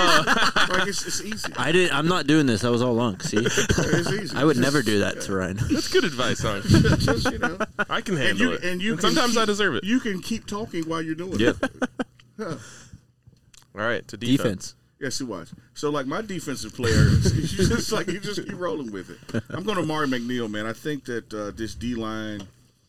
Like it's, it's easy. I did. I'm not doing this. That was all Lunk. See, It's easy. I would Just- never do that to Ryan. That's good advice, son. Just, you know. I can And handle you it. and you And can sometimes keep- I deserve it. You can keep talking while you're doing Yeah. it. All right, to defense. Defense. Yeah, see, watch. So, like, my defensive player, you just like you just keep rolling with it. I'm going to Mari McNeil, man. I think that uh, this D line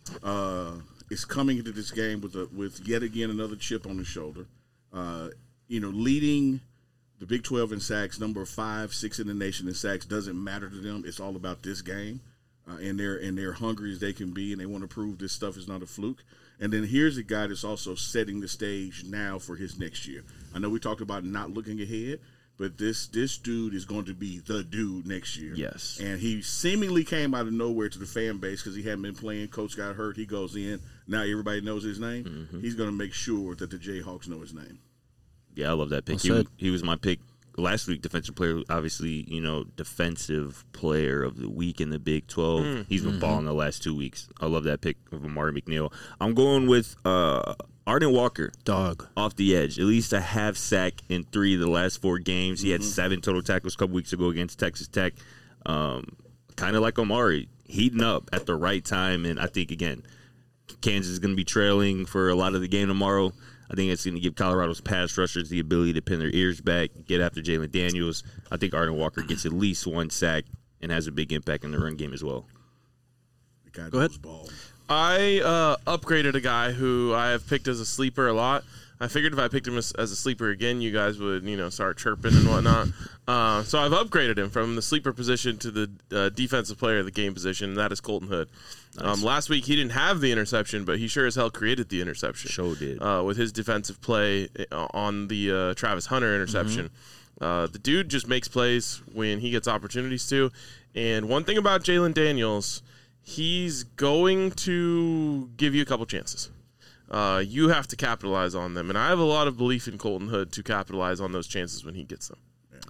uh, is coming into this game with a, with yet again another chip on his shoulder. Uh, you know, leading the Big twelve in sacks, number five, six in the nation in sacks doesn't matter to them. It's all about this game, uh, and they're and they're hungry as they can be, and they want to prove this stuff is not a fluke. And then here's a guy that's also setting the stage now for his next year. I know we talked about not looking ahead, but this this dude is going to be the dude next year. Yes. And he seemingly came out of nowhere to the fan base because he hadn't been playing. Coach got hurt. He goes in. Now everybody knows his name. Mm-hmm. He's going to make sure that the Jayhawks know his name. Yeah, I love that pick. Well He, said. he was my pick last week, defensive player, obviously, you know, defensive player of the week in the Big twelve. Mm. He's been Mm-hmm. balling the last two weeks. I love that pick of Amari McNeil. I'm going with uh, Arden Walker. Dog. Off the edge, at least a half sack in three of the last four games. He had seven total tackles a couple weeks ago against Texas Tech. Um, kind of like Omari, heating up at the right time. And I think, again, Kansas is going to be trailing for a lot of the game tomorrow. I think it's going to give Colorado's pass rushers the ability to pin their ears back, get after Jalen Daniels. I think Arden Walker gets at least one sack and has a big impact in the run game as well. The guy Go ahead. knows ball. I uh, upgraded a guy who I have picked as a sleeper a lot. I figured if I picked him as, as a sleeper again, you guys would, you know, start chirping and whatnot. Uh, so I've upgraded him from the sleeper position to the uh, defensive player of the game position, and that is Colton Hood. Um, last week he didn't have the interception, but he sure as hell created the interception. Sure did. Uh, with his defensive play uh, on the uh, Travis Hunter interception. Uh, the dude just makes plays when he gets opportunities to. And one thing about Jalen Daniels, he's going to give you a couple chances. Uh, you have to capitalize on them. And I have a lot of belief in Colton Hood to capitalize on those chances when he gets them.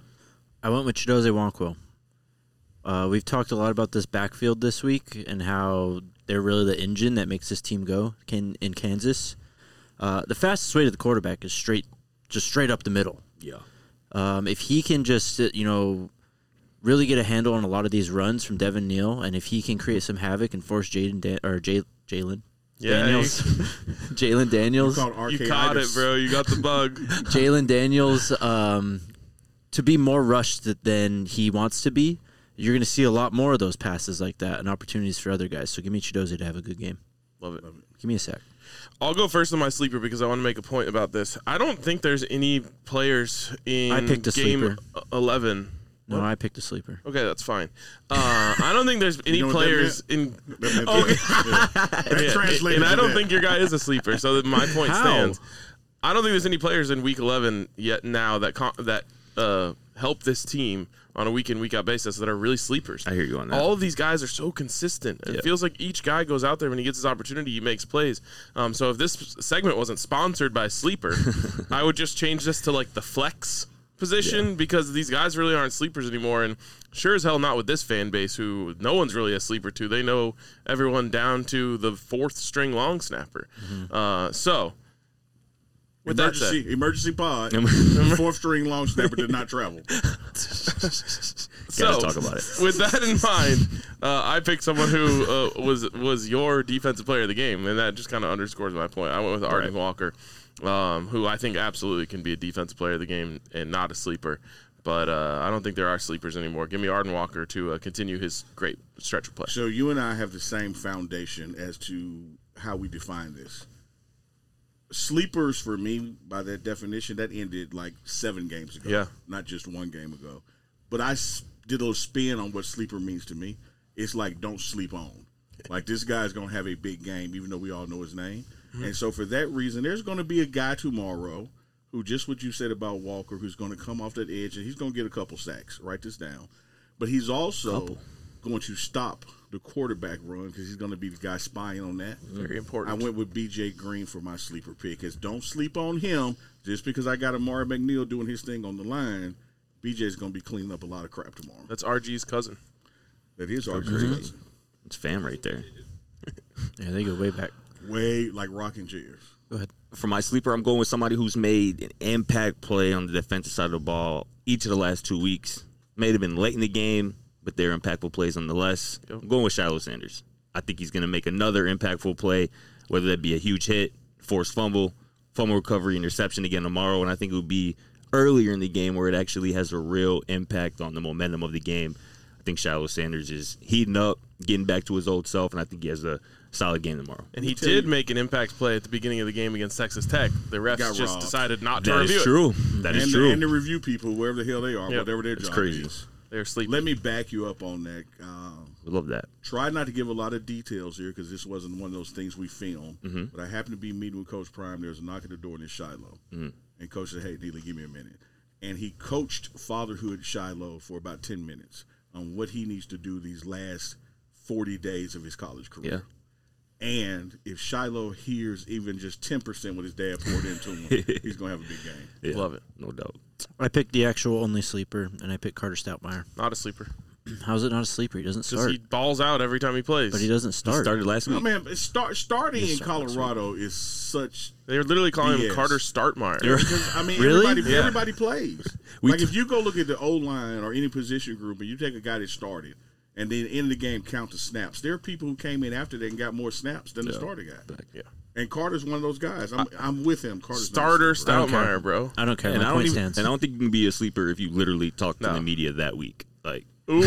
I went with Chidozie Nwankwo. Uh, we've talked a lot about this backfield this week and how they're really the engine that makes this team go can, in Kansas. Uh, the fastest way to the quarterback is straight, just straight up the middle. Yeah. Um, if he can just, uh, you know, really get a handle on a lot of these runs from Devin Neal, and if he can create some havoc and force Jaden Dan- or Jay- Jalen Yeah, Daniels, Jalen Daniels, Called You caught it, arcade-itis. bro. You got the bug. Jalen Daniels, um, to be more rushed th- than he wants to be, you're going to see a lot more of those passes like that and opportunities for other guys. So give me Chidozie to have a good game. Love it. Give me a sack. I'll go first on my sleeper because I want to make a point about this. I don't think there's any players in I picked a game sleeper. eleven. No, I picked a sleeper. Okay, that's fine. Uh, I don't think there's any know what that players in. That- that- Okay. that Yeah, translated and I to don't that. think your guy is a sleeper, so that my point How? stands. I don't think there's any players in Week eleven yet now that con- that uh, help this team on a week in week out basis that are really sleepers. I hear you on that. All of these guys are so consistent. It Yeah. feels like each guy goes out there when he gets his opportunity, he makes plays. Um, so if this segment wasn't sponsored by Sleeper, I would just change this to like the flex position Yeah. because these guys really aren't sleepers anymore. And sure as hell not with this fan base who no one's really a sleeper to. They know everyone down to the fourth string long snapper. Uh, so with that said, Emergency, emergency pod. Fourth string long snapper did not travel. So, talk about it. with that in mind, uh, I picked someone who uh, was was your defensive player of the game, and that just kind of underscores my point. I went with Arden Right. Walker, um, who I think absolutely can be a defensive player of the game and not a sleeper. But uh, I don't think there are sleepers anymore. Give me Arden Walker to uh, continue his great stretch of play. So you and I have the same foundation as to how we define this. Sleepers for me, by that definition, that ended like seven games ago. Yeah. Not just one game ago. But I s- did a little spin on what sleeper means to me. It's like don't sleep on. Like this guy's going to have a big game, even though we all know his name. Mm-hmm. And so for that reason, there's going to be a guy tomorrow who, just what you said about Walker, who's going to come off that edge and he's going to get a couple sacks. Write this down. But he's also going to stop the quarterback run because he's going to be the guy spying on that. Very I important. went with B J Green for my sleeper pick. Is don't sleep on him just because I got Amari McNeil doing his thing on the line. B J's going to be cleaning up a lot of crap tomorrow. That's R G's cousin. That is our Agreed. cousin. It's fam right there. Yeah, they go way back. Way like rocking chairs. Go ahead. For my sleeper, I'm going with somebody who's made an impact play on the defensive side of the ball each of the last two weeks. May have been late in the game, but they're impactful plays nonetheless. Yep. I'm going with Shiloh Sanders. I think he's going to make another impactful play, whether that be a huge hit, forced fumble, fumble recovery, interception again tomorrow. And I think it would be earlier in the game where it actually has a real impact on the momentum of the game. I think Shiloh Sanders is heating up. getting back to his old self, and I think he has a solid game tomorrow. And he tell did you- make an impact play at the beginning of the game against Texas Tech. The refs Got just robbed. decided not to That review is it. true. That is and, true. The, and the review people, wherever the hell they are, Yep. whatever their It's job crazy. is. They're sleeping. Let me back you up on that. Um, We love that. try not to give a lot of details here because this wasn't one of those things we filmed. Mm-hmm. But I happened to be meeting with Coach Prime. There was a knock at the door, and it's Shiloh. Mm-hmm. And Coach said, "Hey, Neely, give me a minute." And he coached fatherhood Shiloh for about ten minutes on what he needs to do these last forty days of his college career. And if Shiloh hears even just ten percent what his dad poured into him, he's going to have a big game. Yeah, Love it. no doubt. I picked the actual only sleeper, and I picked Carter Stoutmeyer. Not a sleeper. How's it not a sleeper? He doesn't Because start, he balls out every time he plays. but he doesn't He start. started last Oh, week. man, start, starting Yes, in sir, that's Colorado is such They're literally calling B S. him Carter Startmeyer. because I mean Really? everybody Yeah. everybody plays. We like t- if you go look at the O line or any position group and you take a guy that started and then in the game count the snaps, there are people who came in after that and got more snaps than the Yeah. starter guy. Yeah. And Carter's one of those guys. I'm I'm with him. Carter's not a Starter sleeper. I don't care. Stoutmeyer, bro. I don't care. And My I don't point even, stands. and I don't think you can be a sleeper if you literally talk to No. the media that week. Like, Ooh.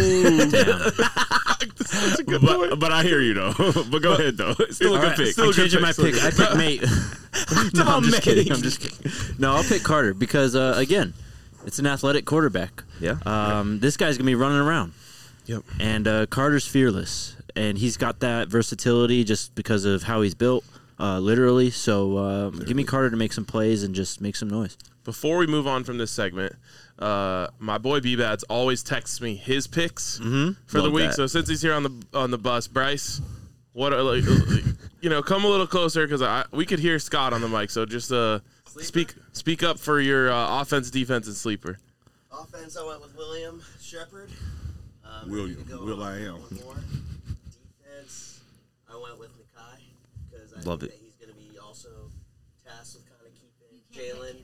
that's a good but, but I hear you though. But go ahead though. It's still a All good right, pick. I'm changing my pick. I picked Mate. no, I'm just kidding. I'm just kidding. No, I'll pick Carter because uh, again, it's an athletic quarterback. Yeah. Um, this guy's gonna be running around, Yep. and uh, Carter's fearless, and he's got that versatility just because of how he's built, uh, literally. So uh, give me Carter to make some plays and just make some noise. Before we move on from this segment, uh, my boy B-Bads always texts me his picks for the Love week. that. So since he's here on the on the bus, Bryce, what are like, you know, come a little closer because I we could hear Scott on the mic. So just uh, speak speak up for your uh, offense, defense, and sleeper. Offense, I went with William Shepard. Um, William, you can go Will on I am. one more. Defense, I went with Nakai because I Love think it. that he's going to be also tasked with kind of keeping Jalen.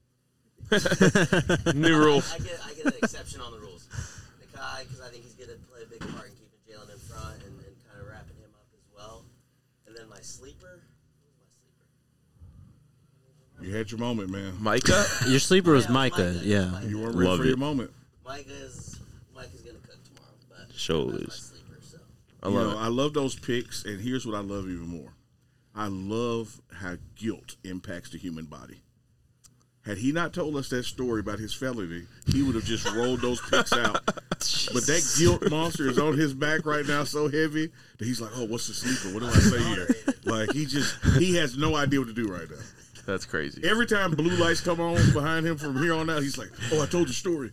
New rule. I, I get I get an exception on the rules. Nakai because I think he's going to play a big part in keeping Jalen in front and, and kind of wrapping him up as well. And then my sleeper, who's my sleeper? You had your moment, man. Micah. Your sleeper was Yeah, Micah. Micah. Yeah. Micah. You weren't ready Love for it. your moment. Micah is Micah's going to cook tomorrow, but Show that's my is. sleeper. So I You love know, it. I love those picks, and here's what I love even more. I love how guilt impacts the human body. Had he not told us that story about his felony, he would have just rolled those picks out. But that guilt monster is on his back right now so heavy that he's like, oh, what's the sleeper? What do I say here? Like, he just, he has no idea what to do right now. That's crazy. Every time blue lights come on behind him from here on out, he's like, oh, I told the story.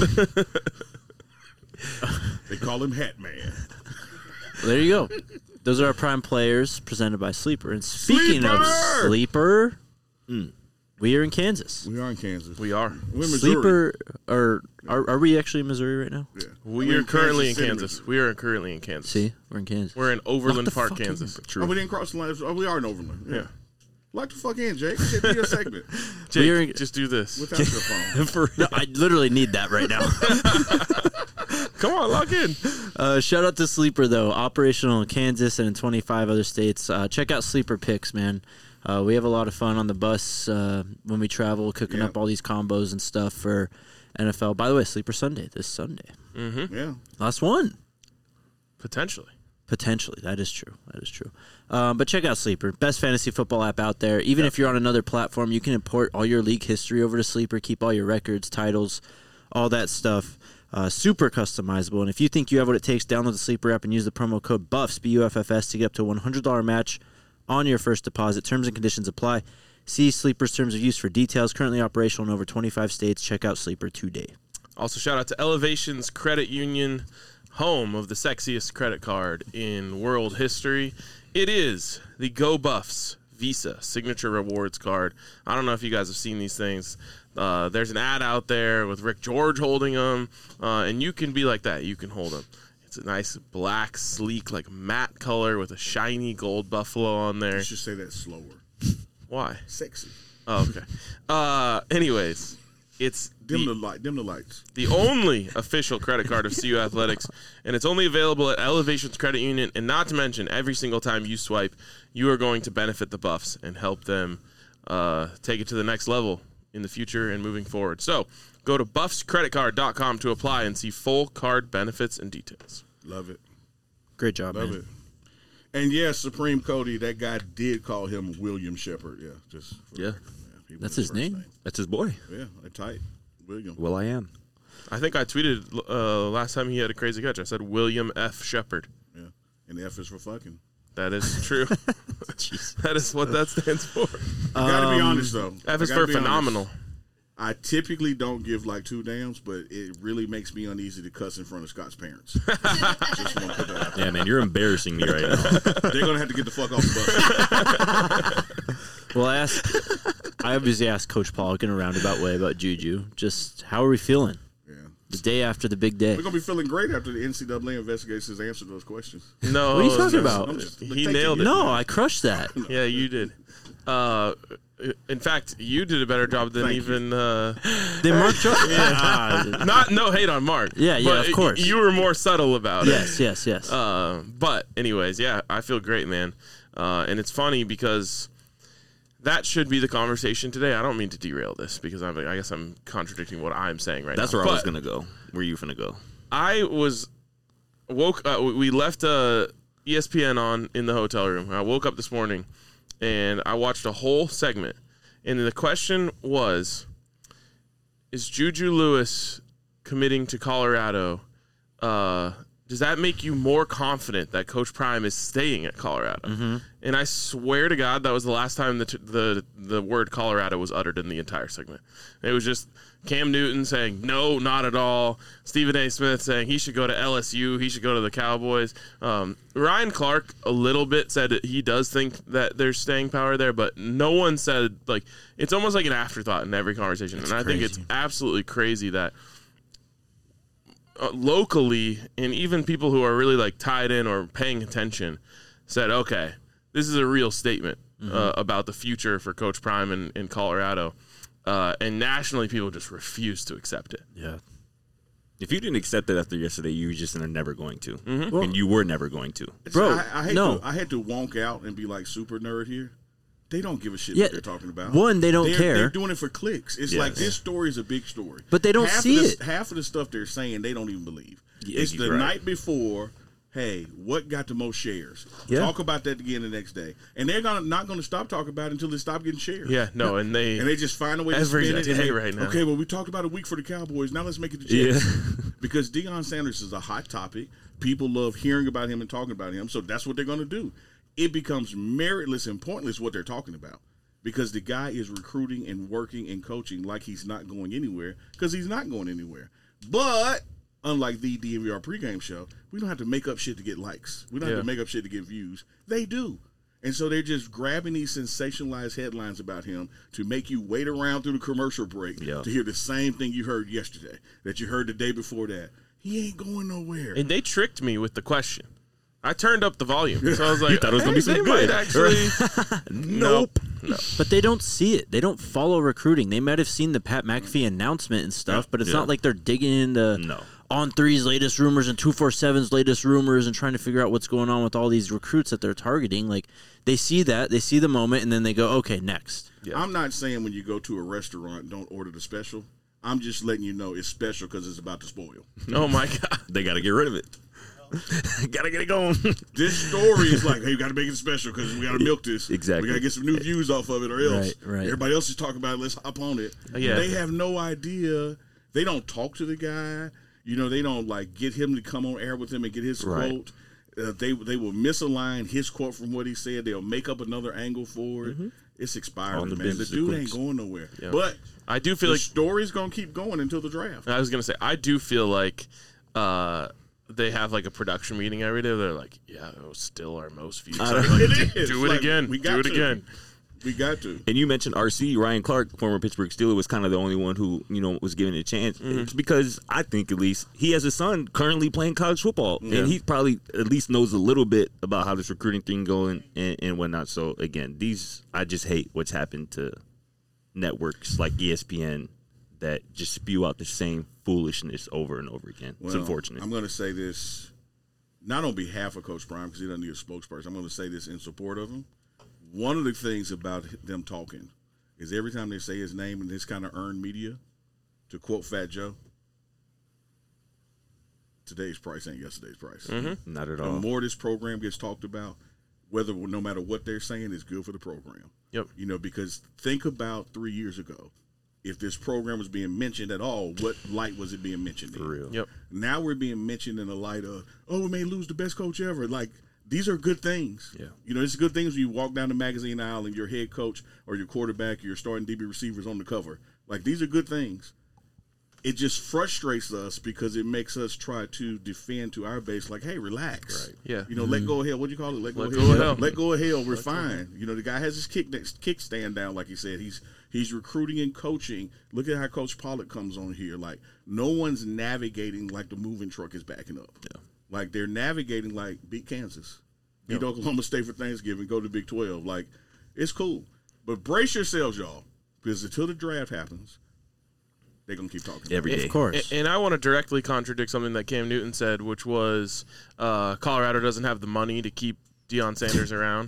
They call him Hat Man. Well, there you go. Those are our prime players presented by Sleeper. And speaking of Sleeper! Sleeper, mm, we are in Kansas. We are in Kansas. We are. We're in Missouri. Sleeper, or are, are we actually in Missouri right now? Yeah. We We're are currently in City, Kansas. Missouri. We are currently in Kansas. See, we're in Kansas. We're in Overland the Park, fuck in. Kansas. Oh, we didn't cross the line. Oh, we are in Overland. Yeah. Yeah. Lock the fuck in, Jake. Shit, do your segment Jake, We're in- just do this. without your phone. For, no, I literally need that right now. Come on, lock in. Uh, shout out to Sleeper, though. Operational in Kansas and in twenty-five other states. Uh, check out Sleeper Picks, man. Uh, we have a lot of fun on the bus uh, when we travel, cooking Yeah. up all these combos and stuff for N F L. By the way, Sleeper Sunday, this Sunday. Yeah. Last one. Potentially. Potentially. That is true. That is true. Um, but check out Sleeper. Best fantasy football app out there. Even if you're on another platform, you can import all your league history over to Sleeper, keep all your records, titles, all that stuff. Uh, super customizable. And if you think you have what it takes, download the Sleeper app and use the promo code BUFFS, B U F F S, to get up to a one hundred dollars match on your first deposit. Terms and conditions apply. See Sleeper's terms of use for details. Currently operational in over twenty-five states. Check out Sleeper today. Also, shout out to Elevations Credit Union, home of the sexiest credit card in world history. It is the Go Buffs Visa Signature Rewards card. I don't know if you guys have seen these things. Uh, there's an ad out there with Rick George holding them, uh, and you can be like that. You can hold them. It's a nice black, sleek, like matte color with a shiny gold buffalo on there. You should say that slower. Why? Sexy. Oh, okay. Uh, anyways, it's Dim the- the light. Dim the lights. the only official credit card of C U Athletics, and it's only available at Elevations Credit Union. And not to mention, every single time you swipe, you are going to benefit the Buffs and help them uh, take it to the next level in the future and moving forward. So go to buffs credit card dot com to apply and see full card benefits and details. Love it. Great job, Love man. it. And yes, Supreme Cody, that guy did call him William Shepard. Yeah, just for Yeah. the record. He was That's his his first name? That's his boy. Yeah, a tight William. Well, I am. I think I tweeted uh, last time he had a crazy catch. I said William F. Shepard. Yeah, and the F is for fucking. That is true. That is what that stands for. I gotta be Um, honest though. F I is gotta for be honest. phenomenal. I typically don't give like two dams, but it really makes me uneasy to cuss in front of Scott's parents. Just want to put that out there. Yeah, man, you're embarrassing me right now. They're gonna have to get the fuck off the bus. Well, I asked. I obviously asked Coach Pollock in a roundabout way about Juju. Just how are we feeling Yeah, the day after the big day? we're gonna be feeling great after the N C double A investigations answer those questions. No, What are you talking no, about? I'm just- He thank nailed you. it. No, I crushed that. Yeah, you did. Uh, in fact, you did a better job than Thank you. even. Uh, Then Mark. Jo- Ah, not no hate on Mark. Yeah, yeah, but of course. You were more subtle about yes, yes, yes. it. Uh, but anyways, yeah, I feel great, man. Uh, and it's funny because that should be the conversation today. I don't mean to derail this because I'm, I guess I'm contradicting what I'm saying right That's now. where I was But gonna go. Where you finna go? I was woke. Uh, we left uh, E S P N on in the hotel room. I woke up this morning and I watched a whole segment. And the question was: is Juju Lewis committing to Colorado? Uh, does that make you more confident that Coach Prime is staying at Colorado? Mm-hmm. And I swear to God, that was the last time the t- the the word Colorado was uttered in the entire segment. It was just Cam Newton saying no, not at all. Stephen A. Smith saying he should go to L S U, he should go to the Cowboys. Um, Ryan Clark a little bit said that he does think that there's staying power there, but no one said, like, it's almost like an afterthought in every conversation. That's and I crazy. think it's absolutely crazy that uh, locally, and even people who are really like tied in or paying attention said, okay, this is a real statement Mm-hmm. uh, about the future for Coach Prime in, in Colorado. Uh, and nationally, people just refuse to accept it. yeah. If you didn't accept it after yesterday, you were just never going to, Mm-hmm. and you were never going to. Bro, I, I hate no. to, I had to wonk out and be like super nerd here. They don't give a shit Yeah, what they're talking about. one, they don't they're, care. They're doing it for clicks. It's Yes. like this story is a big story, But they don't half see of the, it. Half of the stuff they're saying they don't even believe. Yeah, it's the right. night before. Hey, what got the most shares? Yeah. Talk about that again the next day, and they're gonna not going to stop talking about it until they stop getting shares. Yeah, no, and they, And they just find a way to Every spin it. and day they- right now. Okay, well, we talked about a week for the Cowboys. Now let's make it the Yeah. Jets. Because Deion Sanders is a hot topic. People love hearing about him and talking about him. So that's what they're going to do. It becomes meritless and pointless what they're talking about. Because the guy is recruiting and working and coaching like he's not going anywhere. Because he's not going anywhere. But unlike the D M V R pregame show, we don't have to make up shit to get likes. We don't Yeah. have to make up shit to get views. They do. And so they're just grabbing these sensationalized headlines about him to make you wait around through the commercial break Yeah. to hear the same thing you heard yesterday, that you heard the day before that. He ain't going nowhere. and they tricked me with the question. I turned up the volume, so I was like, thought it was gonna hey, be they some might good. actually. Nope. No. But they don't see it. They don't follow recruiting. They might have seen the Pat McAfee announcement and stuff, but it's Yeah. not like they're digging into No. On three's latest rumors and two forty-seven's latest rumors and trying to figure out what's going on with all these recruits that they're targeting. Like, they see that, they see the moment, and then they go, okay, next. Yeah. I'm not saying when you go to a restaurant, don't order the special. I'm just letting you know it's special because it's about to spoil. Oh my God. They got to get rid of it. Gotta get it going. This story is like, hey, we got to make it special because we got to milk this. Exactly. We got to get some new views off of it or else. Right, right. Everybody else is talking about it. Let's hop on it. Yeah. They have no idea. They don't talk to the guy. You know, they don't, like, get him to come on air with him and get his Right. quote. Uh, they they will misalign his quote from what he said. They'll make up another angle for it. It's expired, On the man. The business dude sequence. ain't going nowhere. Yeah. But I do feel the like story's going to keep going until the draft. I was gonna say I do feel like uh, they have like a production meeting every day. They're like, yeah, it was still our most viewed. I So, don't- like, It is. do it Like, again. we Do got it to. again. We got to. And you mentioned R C, Ryan Clark, former Pittsburgh Steeler, was kind of the only one who, you know, was given a chance. It's because I think at least he has a son currently playing college football. Yeah. And he probably at least knows a little bit about how this recruiting thing going and, and whatnot. So, again, these, I just hate what's happened to networks like E S P N that just spew out the same foolishness over and over again. It's Well, unfortunate. I'm going to say this not on behalf of Coach Prime because he doesn't need a spokesperson. I'm going to say this in support of him. One of the things about them talking is every time they say his name in this kind of earned media, to quote Fat Joe, today's price ain't yesterday's price. Mm-hmm. Not at The all. more this program gets talked about, whether no matter what they're saying, is good for the program. Yep. You know, because think about three years ago, if this program was being mentioned at all, what light was it being mentioned in? For real. Yep. Now we're being mentioned in the light of, oh, we may lose the best coach ever. Like, these are good things. Yeah. You know, it's good things when you walk down the magazine aisle and your head coach or your quarterback or your starting D B receivers on the cover. Like, these are good things. It just frustrates us because it makes us try to defend to our base, like, hey, relax. Right. Yeah. You know, let go of hell. What do you call it? Let go, Let of, go hell. of hell. Let go of hell. We're fine. You know, the guy has his kick kickstand down, like he said. He's he's recruiting and coaching. Look at how Coach Pollock comes on here. Like, no one's navigating like the moving truck is backing up. Yeah. Like, they're navigating like beat Kansas, beat Oklahoma State for Thanksgiving, go to Big twelve. Like, it's cool. But brace yourselves, y'all, because until the draft happens, they're going to keep talking. Every day. Of course. And, and I want to directly contradict something that Cam Newton said, which was uh, Colorado doesn't have the money to keep Deion Sanders around.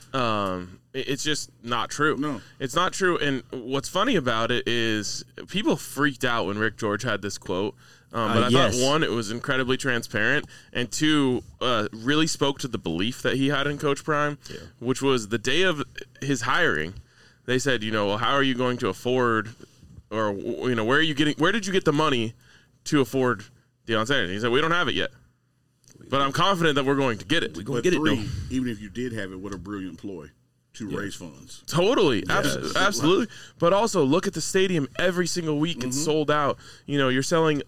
Um, it- it's just not true. No. It's not true. And what's funny about it is people freaked out when Rick George had this quote. Um, but Uh, I yes. thought, one, it was incredibly transparent, and two, uh, really spoke to the belief that he had in Coach Prime, which was the day of his hiring. They said, you know, well, how are you going to afford, or, you know, where are you getting, where did you get the money to afford Deion Sanders? And he said, we don't have it yet, but I'm confident that we're going to get it. We gonna But get three, it though. even if you did have it, what a brilliant ploy to raise funds. Totally, abs- absolutely. But also, look at the stadium every single week. It's Mm-hmm. sold out. You know, you're selling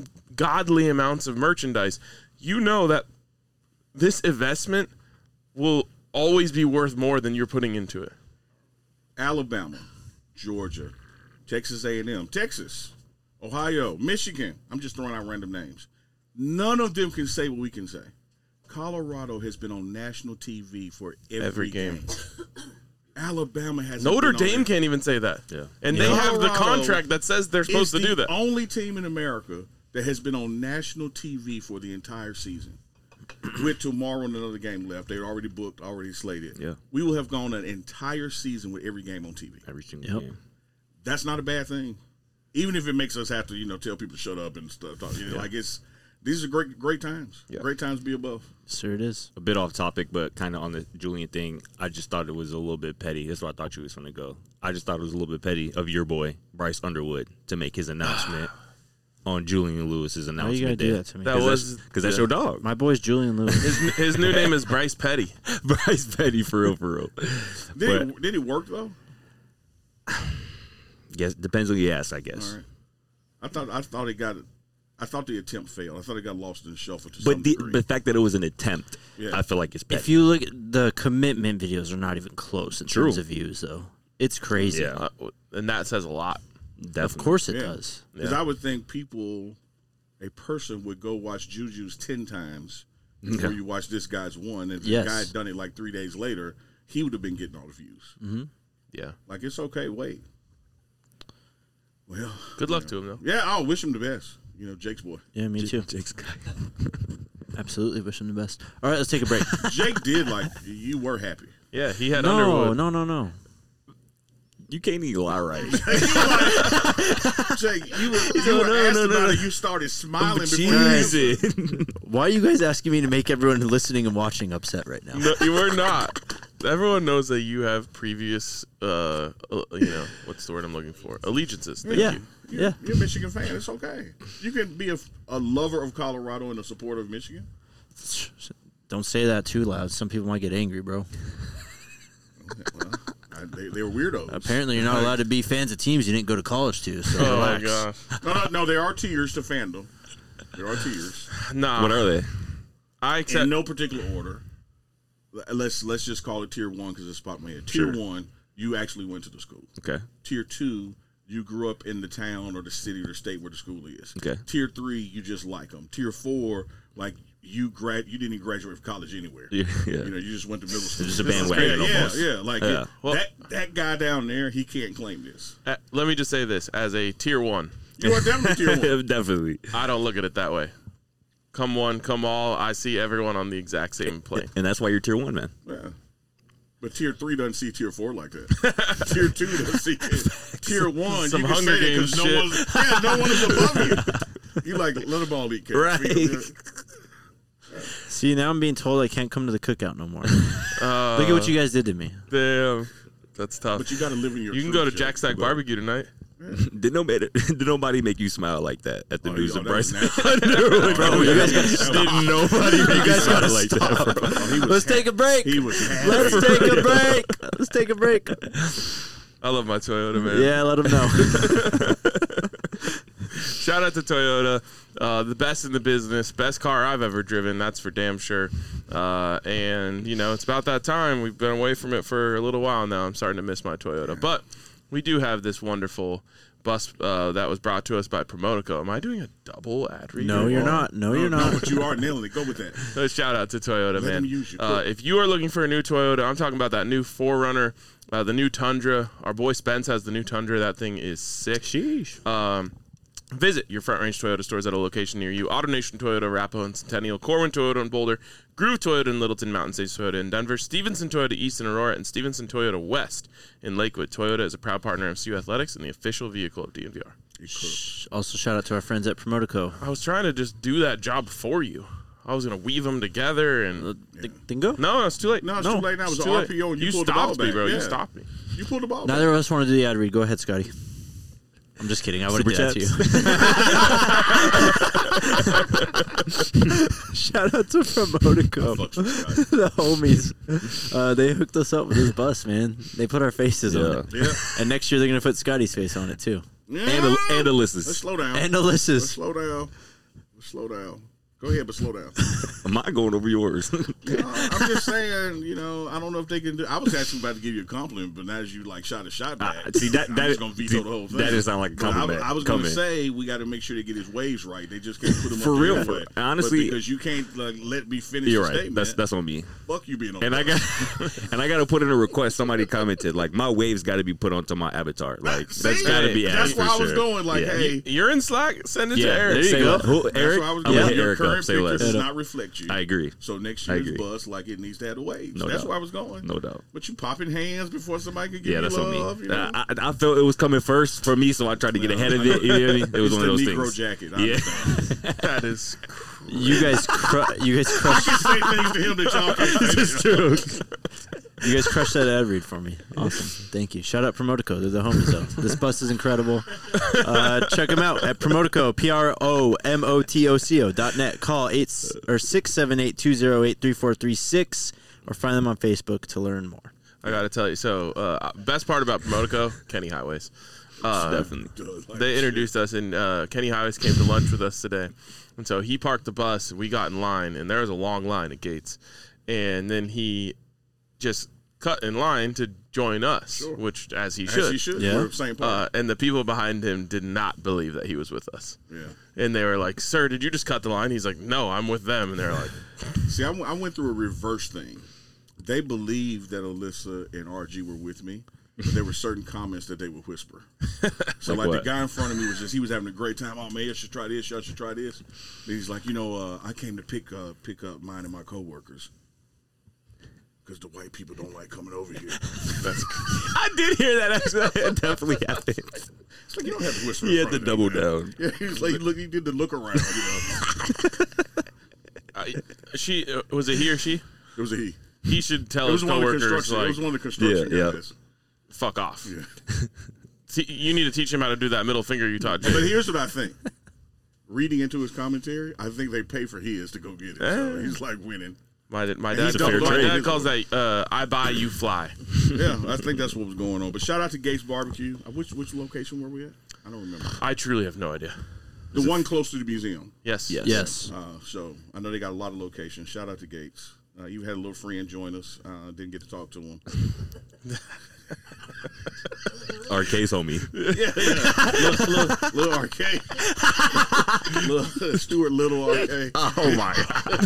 ungodly amounts of merchandise. You know that this investment will always be worth more than you're putting into it. Alabama, Georgia, Texas A and M, Texas, Ohio, Michigan. I'm just throwing out random names. None of them can say what we can say. Colorado has been on national T V for every, Every game. game. Alabama has Notre Dame can't even say that. Yeah. And Yeah. they have the Colorado contract that says they're supposed to It's do the that. only team in America that has been on national T V for the entire season. With tomorrow and another game left, they're already booked, already slated. Yeah. We will have gone an entire season with every game on T V. Every single Yep. game. That's not a bad thing, even if it makes us have to, you know, tell people to shut up and stuff. You know, Like it's these are great, great times. Yeah. Great times to be above. Sure it is. A bit off topic, but kind of on the Julian thing. I just thought it was a little bit petty. That's where I thought you was going to go. I just thought it was a little bit petty of your boy Bryce Underwood to make his announcement on Julian Lewis's Why announcement. you gotta do day. that to me? That Cause was that's, cause that's your dog, My boy's Julian Lewis. his, his new name is Bryce Petty. Bryce Petty, for real, for real. Did, But- it, did it work though? Yes, depends who you ask, I guess. All right. I thought I thought it got I thought the attempt failed. I thought it got lost in the shuffle to some But the, degree. the fact that it was an attempt, Yeah. I feel like it's petty. If you look at the commitment videos, are not even close in True. terms of views, though. It's crazy. Yeah. Uh, and that says a lot. Definitely. Of course it Yeah. does. Because Yeah. I would think people, a person would go watch Juju's ten times before Yeah. you watch this guy's one. And if Yes. the guy had done it like three days later, he would have been getting all the views. Yeah. Like, it's okay, wait. Well, Good luck to him, though. yeah, I'll wish him the best. You know, Jake's boy. Yeah, me too. Jake's guy. Absolutely wish him the best. All right, let's take a break. Jake did like, you were happy. Yeah, he had no, Underwood. no, no, no. You can't even lie right. Jake, you were, you No, were no, asked no, no, about no. it. You started smiling before you answered. Jesus. Why are you guys asking me to make everyone listening and watching upset right now? No, you were not. Everyone knows that you have previous, uh, uh, you know, what's the word I'm looking for? Allegiances. Thank Yeah. you. You're, Yeah. you're a Michigan fan. It's okay. You can be a, a lover of Colorado and a supporter of Michigan. Don't say that too loud. Some people might get angry, bro. Well, I, they, they were weirdos. Apparently, you're not allowed to be fans of teams you didn't go to college to. So Oh, my relax. gosh. No, no, no, there are tiers to fandom. There are tiers. Nah. What are they? I accept. In no particular order. Let's let's just call it tier one because it's popped in my head. Tier Sure. one, you actually went to the school. Okay. Tier two, you grew up in the town or the city or the state where the school is. Okay. Tier three, you just like them. Tier four, like you grad, you didn't even graduate from college anywhere. Yeah. yeah. You know, you just went to middle school. Just a This is bandwagon crazy. almost. Yeah, yeah. Like Yeah. it- Well- that that guy down there, he can't claim this. uh, let me just say this. As a tier one, You are definitely tier one. Definitely. I don't look at it that way. Come one, come all. I see everyone on the exact same plane. And that's why you're tier one, man. Yeah. But tier three doesn't see tier four like that. Tier two doesn't see it. Tier one. Some you can Hunger say it 'cause Games no shit. one's, yeah, no one is above you. You like let them all eat cake. Right. See, now I'm being told I can't come to the cookout no more. Uh, Look at what you guys did to me. Damn, that's tough. But you got to live in your. You can truth, go to Jay. Jack Stack Barbecue tonight. Did nobody did nobody make you smile like that at the Oh, news yeah, of that was Bryce? nasty. Bro, you guys gotta Did nobody make you guys smile gotta like that, bro? Oh, he was Let's take a break. He was. Let's take a break. Let's take a break. I love my Toyota, man. Yeah, let them know. Shout out to Toyota, uh, the best in the business, best car I've ever driven. That's for damn sure. Uh, and you know, it's about that time. We've been away from it for a little while now. I'm starting to miss my Toyota, but we do have this wonderful bus uh, that was brought to us by Promotico. Am I doing a double ad read? No, you're not. No, you're not. But you are nailing it. Go with that. So shout out to Toyota, Let man. them use you. Uh, if you are looking for a new Toyota, I'm talking about that new four runner, uh, the new Tundra. Our boy Spence has the new Tundra. That thing is sick. Sheesh. Um, visit your Front Range Toyota stores at a location near you. AutoNation Toyota, Arapahoe and Centennial, Corwin Toyota in Boulder, Groove Toyota in Littleton, Mountain States Toyota in Denver, Stevenson Toyota East in Aurora, and Stevenson Toyota West in Lakewood. Toyota is a proud partner of C U Athletics and the official vehicle of D N V R. Also, shout out to our friends at Promotico. I was trying to just do that job for you. I was going to weave them together and... Uh, th- Then go. No, it's too late. No, it's no, too late now. It was it's an too R P O late. and you You pulled the ball stopped me, back. bro. You Yeah. stopped me. You pulled the ball. Neither back. of us want to do the ad read. Go ahead, Scotty. I'm just kidding. I would have Super did that to you. Shout out to Promotico, the homies. Uh, they hooked us up with this bus, man. They put our faces on it. Yeah. And next year they're gonna put Scotty's face on it too. Yeah. And, Al- and Let's Alyssa's. slow down. And Let's Alyssa's. slow down. Let's slow down. Go ahead, but slow down. Am I going over yours? You know, I'm just saying, you know, I don't know if they can do. I was actually about to give you a compliment, but now as you like shot a shot back, Uh, see, that- I'm that- just gonna veto see, the whole thing. that doesn't sound like a But I- compliment. I, was gonna Coming. say we got to make sure they get his waves right. They just can't put him For up real, there for- anyway. honestly- But because you can't like, let me finish You're the right. statement. That's that's on me. Fuck you being on. And the I bus. got and I got to put in a request. Somebody commented like my waves got to be put onto my avatar. Like See? that's got to be. That's added where for I was sure. going. Like, Yeah. hey, You're in Slack? Send it Yeah, to Eric. there you Say go. what? Who, that's Eric, where I was I'm going. gonna hit Your Eric current up. Say picture less. does not reflect you. I agree. So next I year's agree. bus, like it needs to have the waves. No That's doubt. where I was going. No doubt. But you popping hands before somebody could give Yeah, you that's on love. me. You know? I, I, I felt it was coming first for me, so I tried to get ahead of it. You know what I mean? It was It's one of the those Negro things. jacket. I Yeah. understand. That is You guys, cru- you guys I crushed. can say things to him that y'all can't say. This is true. You guys crushed that ad read for me. Awesome. Thank you. Shout out Promotico. They're the homies, though. This bus is incredible. Uh, check them out at Promotico, P R O M O T O C O dot net. Call eight or six seven eight two zero eight three four three six or find them on Facebook to learn more. I got to tell you. So, uh, best part about Promotico, Kenny Highways. Uh, Definitely. They introduced us, and uh, Kenny Highways came to lunch with us today. And so he parked the bus, and we got in line, and there was a long line at gates. And then he just cut in line to join us, Sure. which, as he As should. he should. Yeah. We're the same part. Uh, and the people behind him did not believe that he was with us. yeah. And they were like, "Sir, did you just cut the line?" He's like, "No, I'm with them." And they're like, See, I, w- I went through a reverse thing. They believed that Alyssa and R G were with me, but there were certain comments that they would whisper. So, Like like, what? the guy in front of me was just, he was having a great time. Oh, man, you should try this. Y'all should try this. And he's like, you know, uh, I came to pick, uh, pick up mine and my coworkers because the white people don't like coming over here. "That's I did hear that. Actually, it definitely happened. It's like, you don't have to whisper. He in had to front of them, double man. down. Yeah, he's like, look, he did the look around. You know, I, she uh, was it he or she? it was a he. He should tell It was his one of the coworkers construction. like, it was one of the construction Yeah, yeah. guys. "Fuck off." Yeah. Te- you need to teach him how to do that middle finger you taught Jay. But here's what I think. Reading into his commentary, I think they pay for his to go get it. So Eh. he's like winning. My, my And dad, he's double my trade. dad calls that uh, "I buy, you fly." Yeah, I think that's what was going on. But shout out to Gates Barbecue. Uh, Which which location were we at? I don't remember. I truly have no idea. The one close to the museum. Yes. Yes. Yes. Uh, so I know they got a lot of locations. Shout out to Gates. Uh, you had a little friend join us. Uh, didn't get to talk to him. R K's homie. Yeah, yeah. little, little, little arcade. little, Stuart Little arcade. Oh my god.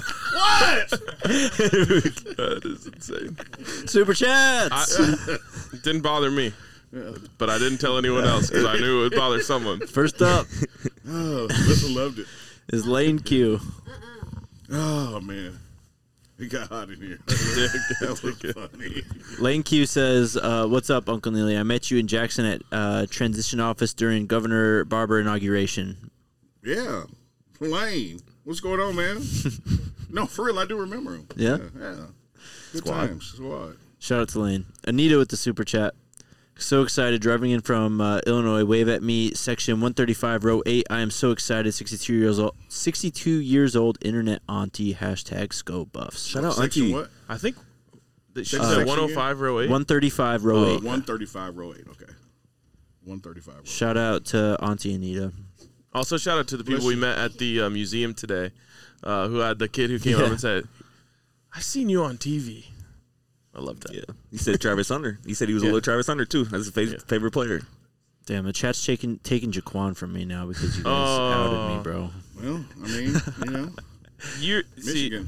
That is insane. Super chats. I, it didn't bother me, but I didn't tell anyone else because I knew it would bother someone. First up Oh, Alyssa loved it. is Lane Q. Oh, man. It got hot in here. That was funny. Lane Q says, uh, "What's up, Uncle Neely? I met you in Jackson at uh, transition office during Governor Barber inauguration. Yeah. Lane. What's going on, man? No, for real, I do remember him. Yeah? Yeah. yeah. Good Squad. times. Squad. Shout out to Lane. Anita with the super chat. So excited. Driving in from uh, Illinois. Wave at me. Section one thirty-five, row eight. I am so excited. sixty-two years old. sixty-two years old. Internet auntie. Hashtag Sco Buffs. Shout out, Section Auntie. what? I think that she Uh, said section one oh five row eight. one thirty-five, row Uh, eight. one thirty-five, row eight. Okay. one thirty-five, row eight. Shout out to Auntie Anita. Also, shout out to the people Bless we you. met at the uh, museum today, uh, who had the kid who came Yeah. up and said, "I seen you on T V." I love that. Yeah, he said Travis Hunter. He said he was Yeah. a little Travis Hunter too. That's his favorite, Yeah. favorite player. Damn, the chat's taking taking Jaquan from me now because you guys Oh. outed me, bro. Well, I mean, you know, You're see, Michigan.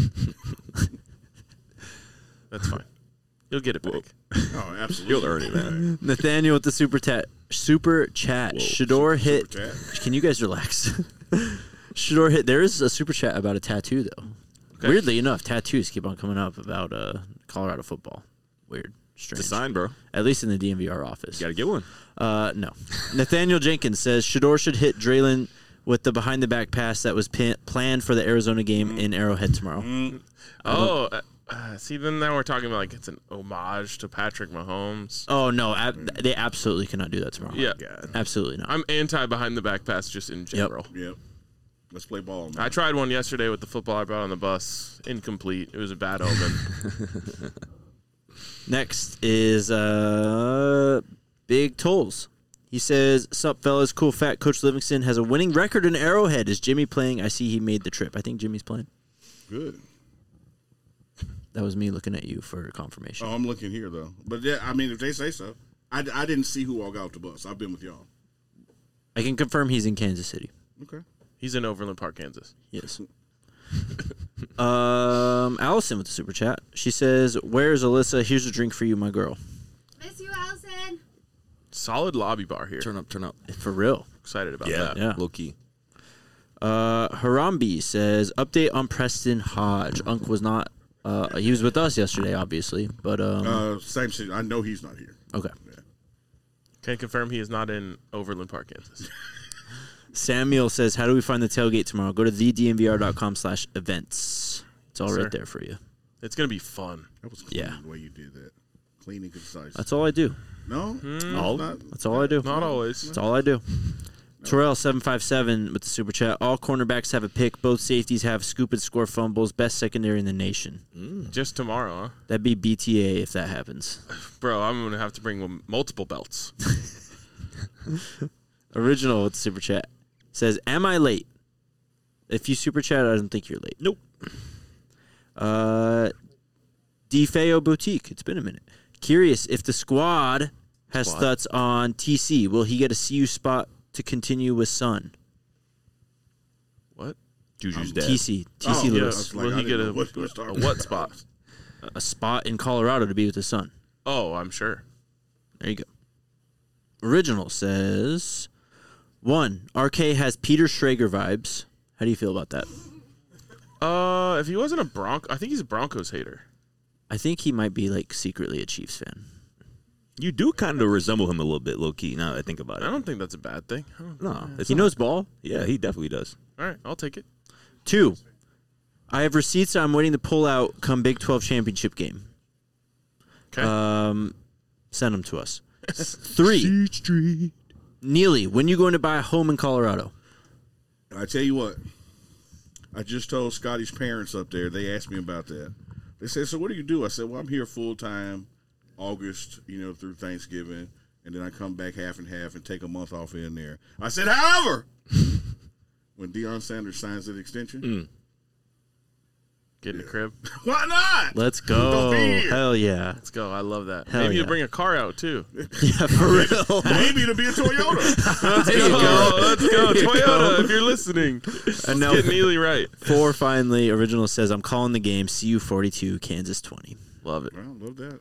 that's fine. You'll get it back. Oh, absolutely. You'll earn it, man. Nathaniel with the super tat super chat. Whoa. Shador hit. Super chat. Can you guys relax? Shador hit. There is a super chat about a tattoo though. Okay. Weirdly enough, tattoos keep on coming up about uh, Colorado football. Weird, strange. It's a sign, bro. At least in the D M V R office. You gotta get one. Uh, no. Nathaniel Jenkins says Shador should hit Draylon with the behind the back pass that was pin- planned for the Arizona game in Arrowhead tomorrow. Oh, uh, uh, see, then now we're talking about like it's an homage to Patrick Mahomes. Oh no, ab- they absolutely cannot do that tomorrow. Yeah, Absolutely not. I'm anti behind the back pass just in general. Yep. Let's play ball, man. I tried one yesterday with the football I brought on the bus. Incomplete. It was a bad omen. Next is uh, Big Tolls. He says, "Sup, fellas? Cool fact: Coach Livingston has a winning record in Arrowhead. Is Jimmy playing? I see he made the trip. I think Jimmy's playing. Good. That was me looking at you for confirmation. Oh, I'm looking here, though. But, yeah, I mean, if they say so. I, I didn't see who all got off the bus. I've been with y'all. I can confirm he's in Kansas City. Okay. He's in Overland Park, Kansas. Yes. um, Allison with the super chat. She says, "Where's Alyssa? Here's a drink for you, my girl." Miss you, Allison. Solid lobby bar here. Turn up, turn up. For real. Excited about Yeah, that. Yeah. low key. Uh, Harambe says, "Update on Preston Hodge. Unc was not. Uh, he was with us yesterday, obviously, but um, Uh, same shit. I know he's not here. okay." Can confirm he is not in Overland Park, Kansas. Samuel says, "How do we find the tailgate tomorrow? Go to the d m v r dot com slash events. It's all Sir. right there for you. It's gonna be fun. That was clean Yeah. the way you did that. Clean and concise. That's all I do. no? no All. not, That's all I do. Not always. That's all I do." Terrell seven five seven with the super chat. "All cornerbacks have a pick. Both safeties have scoop and score fumbles. Best secondary in the nation. Just tomorrow, huh? That'd be B T A if that happens." Bro, I'm gonna have to bring multiple belts. Original with the super chat says, "Am I late? If you super chat, I don't think you're late." Nope. Uh, DeFeo Boutique. It's been a minute. Curious if the squad has Squad. thoughts on T C. Will he get a C U spot to continue with Sun? What? Juju's dad. T C. T C Oh, yeah. Lewis. I was like, Will I he didn't get know a, what he was a talking what about. spot? A spot in Colorado to be with his son. Oh, I'm sure. There you go. Original says, one, R K has Peter Schrager vibes. How do you feel about that? Uh, if he wasn't a Bronco, I think he's a Broncos hater. I think he might be like secretly a Chiefs fan. You do kind of resemble him a little bit, low key. Now that I think about it. I don't think that's a bad thing. I don't- No, it's He not. knows ball. Yeah, he definitely does. All right, I'll take it. Two, I have receipts I'm waiting to pull out come Big twelve championship game. Okay. Um, send them to us. Three, Neely, when you going to buy a home in Colorado? I tell you what, I just told Scotty's parents up there. They asked me about that. They said, "So what do you do?" I said, "Well, I'm here full time, August, you know, through Thanksgiving, and then I come back half and half and take a month off in there." I said, "However, when Deion Sanders signs that extension, Get in the crib. why not? Let's Don't go. be here. Hell yeah. Let's go. I love that. Hell Maybe yeah. you bring a car out too. Yeah, for real. Maybe it'll be a Toyota." Let's There you go. go. Let's go. There you Toyota, go. if you're listening. And now Get Neely right. four, finally, Original says, "I'm calling the game. C U forty-two, Kansas twenty. Love it. Well, love that.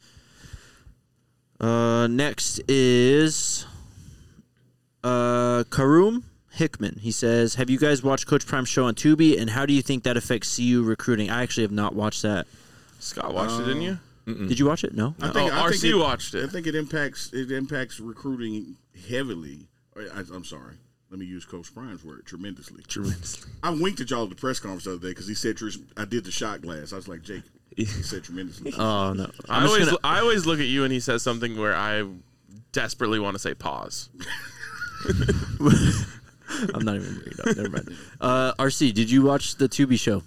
Uh, next is uh, Karum Hickman. He says, "Have you guys watched Coach Prime's show on Tubi, and how do you think that affects C U recruiting?" I actually have not watched that. Scott watched it, didn't you? Did you watch it? No. I Oh, think, I R think C it, watched I it. think it impacts it impacts recruiting heavily. I, I'm sorry, let me use Coach Prime's word, tremendously. Tremendously. I winked at y'all at the press conference the other day because he said I did the shot glass. I was like, Jake, he said tremendously. Oh no! I I'm just always gonna- I always look at you and he says something where I desperately want to say pause. I'm not even bringing it up. Never mind. Uh, R C, did you watch the Tubi show?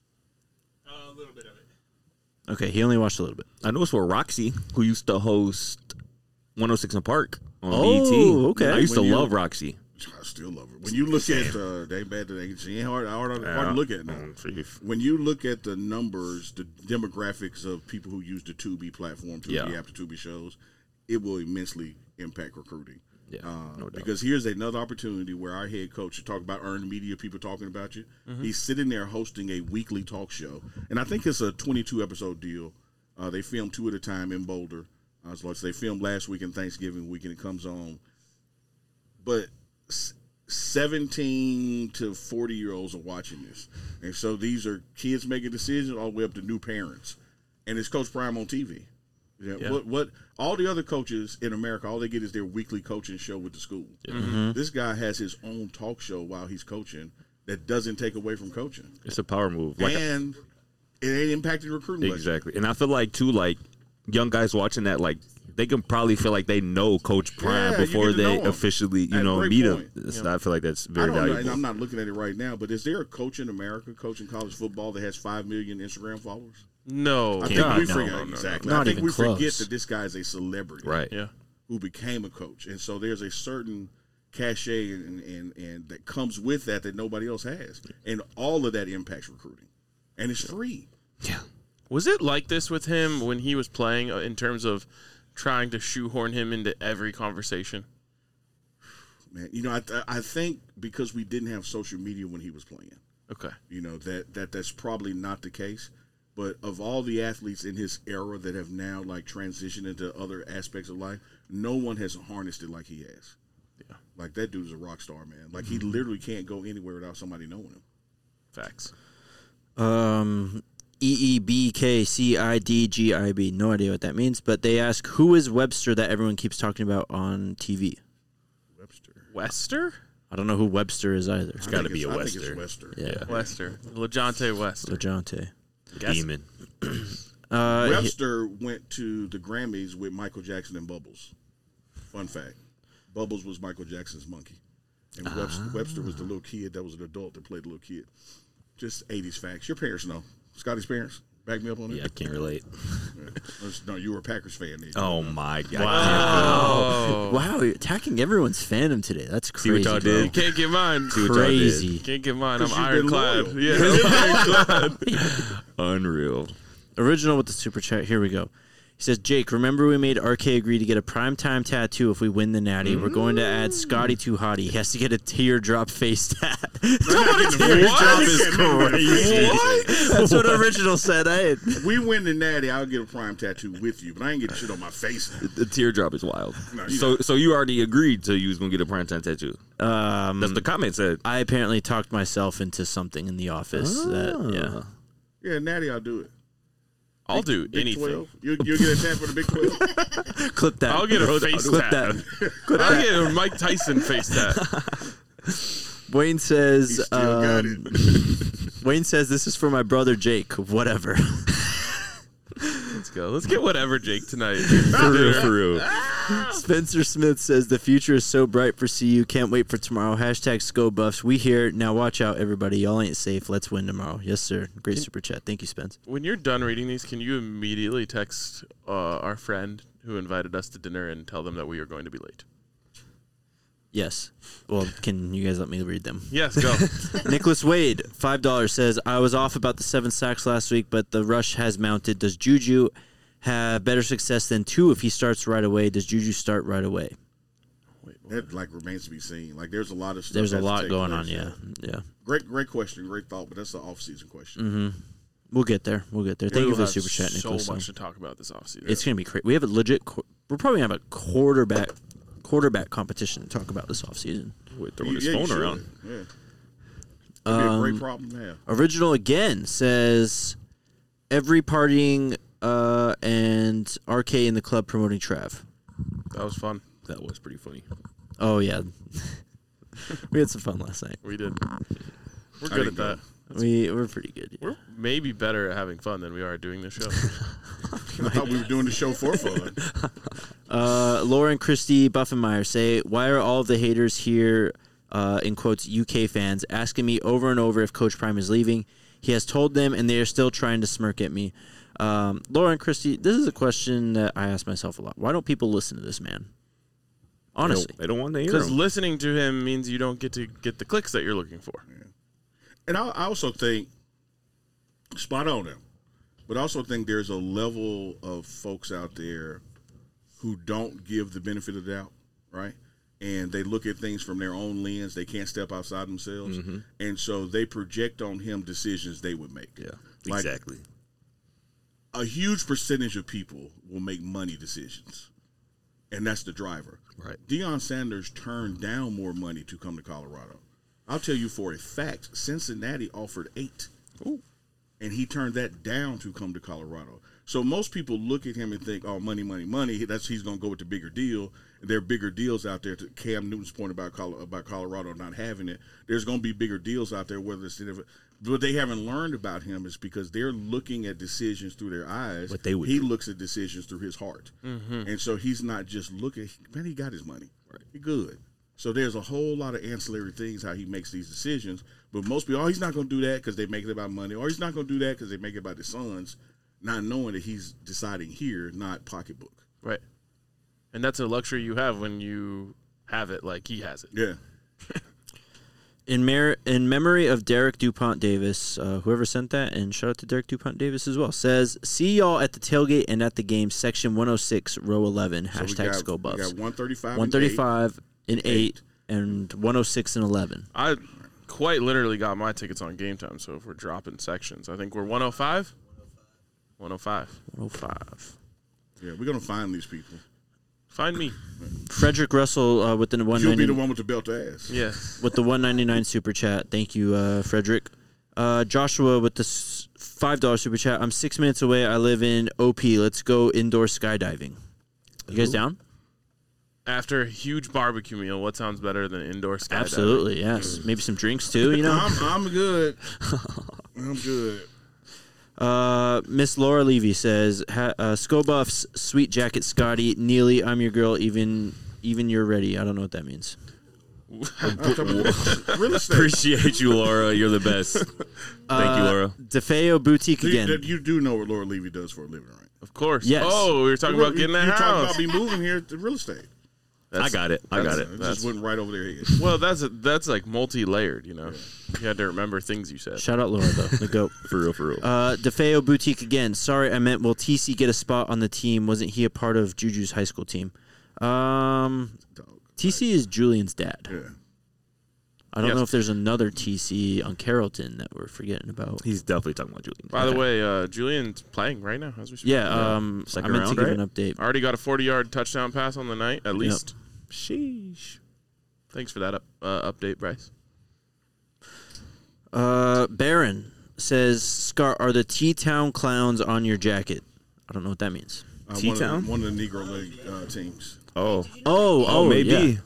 A little bit of it. Okay, he only watched a little bit. I know it's for Roxy, who used to host one oh six in Park on Oh, B E T. okay. I used When to you- love Roxy. I still love her. When you look at uh, they bad that they she ain't hard, hard, hard to look at now. Um, chief. When you look at the numbers, the demographics of people who use the Tubi platform, Tubi Yeah. app, the Tubi shows, it will immensely impact recruiting. Yeah, Uh, no doubt. because here's another opportunity where our head coach, you talk about earned media, people talking about you. He's sitting there hosting a weekly talk show, and I think it's a twenty-two episode deal. Uh, they film two at a time in Boulder. Uh, so they filmed last week and Thanksgiving week, and it comes on. But s- seventeen to forty year olds are watching this, and so these are kids making decisions all the way up to new parents, and it's Coach Prime on T V. Yeah, Yeah. What what all the other coaches in America, all they get is their weekly coaching show with the school. This guy has his own talk show while he's coaching that doesn't take away from coaching, It's a power move. Like and it ain't impacting recruiting. budget. exactly. And I feel like too, like young guys watching that, like they can probably feel like they know Coach Prime Yeah, you before get to they know him. officially, you That's a know, great meet point. him. It's- I feel like that's I very don't know, and valuable. I'm not looking at it right now, but is there a coach in America coaching college football that has five million Instagram followers? No. I think God, we no, forget no, no, no. exactly. Not I think even we forget close. that this guy is a celebrity, Right. Yeah. who became a coach, and so there's a certain cachet and, and and that comes with that that nobody else has, and all of that impacts recruiting, and it's free. Yeah. Was it like this with him when he was playing uh, in terms of trying to shoehorn him into every conversation? Man, you know, I I think because we didn't have social media when he was playing, Okay. you know that that that's probably not the case. But of all the athletes in his era that have now like transitioned into other aspects of life, no one has harnessed it like he has. Yeah. Like that dude's a rock star, man. Like he literally can't go anywhere without somebody knowing him. Facts. Um, E E B K C I D G I B. No idea what that means, but they ask, who is Webster that everyone keeps talking about on T V? Webster. Wester? I don't know who Webster is either. It's gotta be a I Wester. think it's Wester. Yeah, Wester. LeJontay Wester. LeJontay. Demon. Uh, he- Webster went to the Grammys with Michael Jackson and Bubbles. Fun fact. Bubbles was Michael Jackson's monkey. And Webster, Webster was the little kid that was an adult that played the little kid. Just eighties facts. Your parents know. Scotty's parents? Back me up on it? Yeah, I can't relate. Yeah. No, you were a Packers fan then. Oh my God. Oh. wow, you're attacking everyone's fandom today. That's See what crazy. y'all bro. You did? can't get mine. See what y'all did? Crazy. Can't get mine. I'm 'Cause you've been ironclad. loyal. Yeah. Unreal. Original with the super chat. Here we go. He says, Jake, remember we made R K agree to get a primetime tattoo if we win the Natty. We're going to add Scotty Too Hottie. He has to get a teardrop face tat. Teardrop is crazy. What? That's what Original said. I We win the Natty, I'll get a prime tattoo with you, but I ain't getting shit on my face now. The teardrop is wild. No, you so, so you already agreed to you was gonna get a primetime tattoo. um, That's the comment said. I apparently talked myself into something in the office. That yeah. Yeah, Natty, I'll do it. I'll do Big anything. twelve. You, you'll get a tat for the Big twelve? Clip that. I'll get a face Clip tat. that. I'll get a Mike Tyson face tat. Wayne He says. still got um, it. Wayne says this is for my brother Jake. Whatever. Let's go. Let's get whatever Jake tonight. For real, for real. Spencer Smith says the future is so bright for C U. Can't wait for tomorrow. Hashtag Sco Buffs. We here now. Watch out, everybody. Y'all ain't safe. Let's win tomorrow. Yes, sir. Great super chat. Thank you, Spence. When you're done reading these, can you immediately text uh, our friend who invited us to dinner and tell them that we are going to be late? Yes. Well, can you guys let me read them? Yes, go. Nicholas Wade, five dollars, says, I was off about the seven sacks last week, but the rush has mounted. Does Juju have better success than two if he starts right away? Does Juju start right away? That like remains to be seen. Like there's a lot of stuff. There's a that has to lot take going place. on, yeah. Yeah. Great, great question, great thought, but that's the off-season question. Mm-hmm. We'll get there. We'll get there. Thank We'll you for the have super chat, so Nicholas. much to talk about this offseason. It's going to be crazy. We have a legit, qu- we're probably going to have a quarterback quarterback competition to talk about this offseason. Wait, throwing You- his yeah, you phone should. around. Yeah, that'd be a Um, great problem to have. Original again says, every partying uh, and R K in the club promoting Trav. That was fun. That was pretty funny. Oh, yeah. We had some fun last night. We did. We're I good didn't at go. that. We we're pretty good. Yeah. We're maybe better at having fun than we are at doing this show. I thought we were doing the show for fun. Uh, Lauren Christie Buffenmeyer say, why are all of the haters here, uh, in quotes, U K fans, asking me over and over if Coach Prime is leaving? He has told them, and they are still trying to smirk at me. Um, Lauren Christie, this is a question that I ask myself a lot. Why don't people listen to this man? Honestly. They don't, they don't want to hear Because him. listening to him means you don't get to get the clicks that you're looking for. And I, I also think, spot on him, but I also think there's a level of folks out there who don't give the benefit of the doubt, right? And they look at things from their own lens. They can't step outside themselves. Mm-hmm. And so they project on him decisions they would make. Yeah, Like, exactly. a huge percentage of people will make money decisions, and that's the driver. Right. Deion Sanders turned down more money to come to Colorado. I'll tell you for a fact, Cincinnati offered eight. Ooh. And he turned that down to come to Colorado. So most people look at him and think, oh, money, money, money. That's he's going to go with the bigger deal. And there are bigger deals out there. To Cam Newton's point about Col- about Colorado not having it, there's going to be bigger deals out there. Whether it's what they haven't learned about him is because they're looking at decisions through their eyes. What they would he do. looks at decisions through his heart, Mm-hmm. and so he's not just looking. Man, he got his money. Right. He good. So there's a whole lot of ancillary things how he makes these decisions. But most people, oh, he's not going to do that because they make it about money, or he's not going to do that because they make it about his sons, not knowing that he's deciding here, not pocketbook. Right. And that's a luxury you have when you have it like he has it. Yeah. In, mer- in memory of Derek DuPont Davis, uh, whoever sent that, and shout out to Derek DuPont Davis as well, says, see y'all at the tailgate and at the game, section one oh six, row eleven, So we hashtag got, Skull we Buffs. got one thirty-five. one thirty-five and eight, Eight. and one oh six and eleven. I quite literally got my tickets on Game Time, so if we're dropping sections, I think we're one oh five? one oh five. one oh five. Yeah, we're going to find these people. Find me. Frederick Russell uh, with the one You'll be ninety the one with the belt to ass. Yeah. with the one ninety-nine super chat. Thank you, uh, Frederick. Uh, Joshua with the s- five dollar super chat. I'm six minutes away. I live in O P. Let's go indoor skydiving. You guys down? After a huge barbecue meal, what sounds better than indoor skydiving? Absolutely, yes. Maybe some drinks too. You know. I'm, I'm good. I'm good. Uh, Miss Laura Levy says, ha- uh, "Skull Buffs, sweet jacket, Scotty, Neely, I'm your girl. Even, even you're ready. I don't know what that means. Real estate. Appreciate you, Laura. You're the best. Thank Uh, you, Laura. DeFeo Boutique You, again. that- you do know what Laura Levy does for a living, right? Of course. Yes. Oh, we were talking about getting a You're talking house. about me moving here to real estate. I got it. I got It it. just went right over their head. Well, that's a, that's like multi-layered, you know. You had to remember things you said. Shout out Laura though, the goat. For real, for real. Uh, DeFeo Boutique again. Sorry, I meant will T C get a spot on the team? Wasn't he a part of Juju's high school team? Um, Dog. T C is Julian's dad. Yeah. I don't Yes. know if there's another T C on Carrollton that we're forgetting about. He's definitely talking about Julian. By the Okay. way, uh, Julian's playing right now as we speak. Yeah, um, I Second meant round, to give right? an update. Already got a forty-yard touchdown pass on the night, at least. Sheesh. Thanks for that up, uh, update, Bryce. Uh, Baron says, Scar, are the T-Town clowns on your jacket? I don't know what that means. Uh, one, of T-Town? the, one of the Negro League uh, teams. Oh. Oh, Oh, maybe. yeah.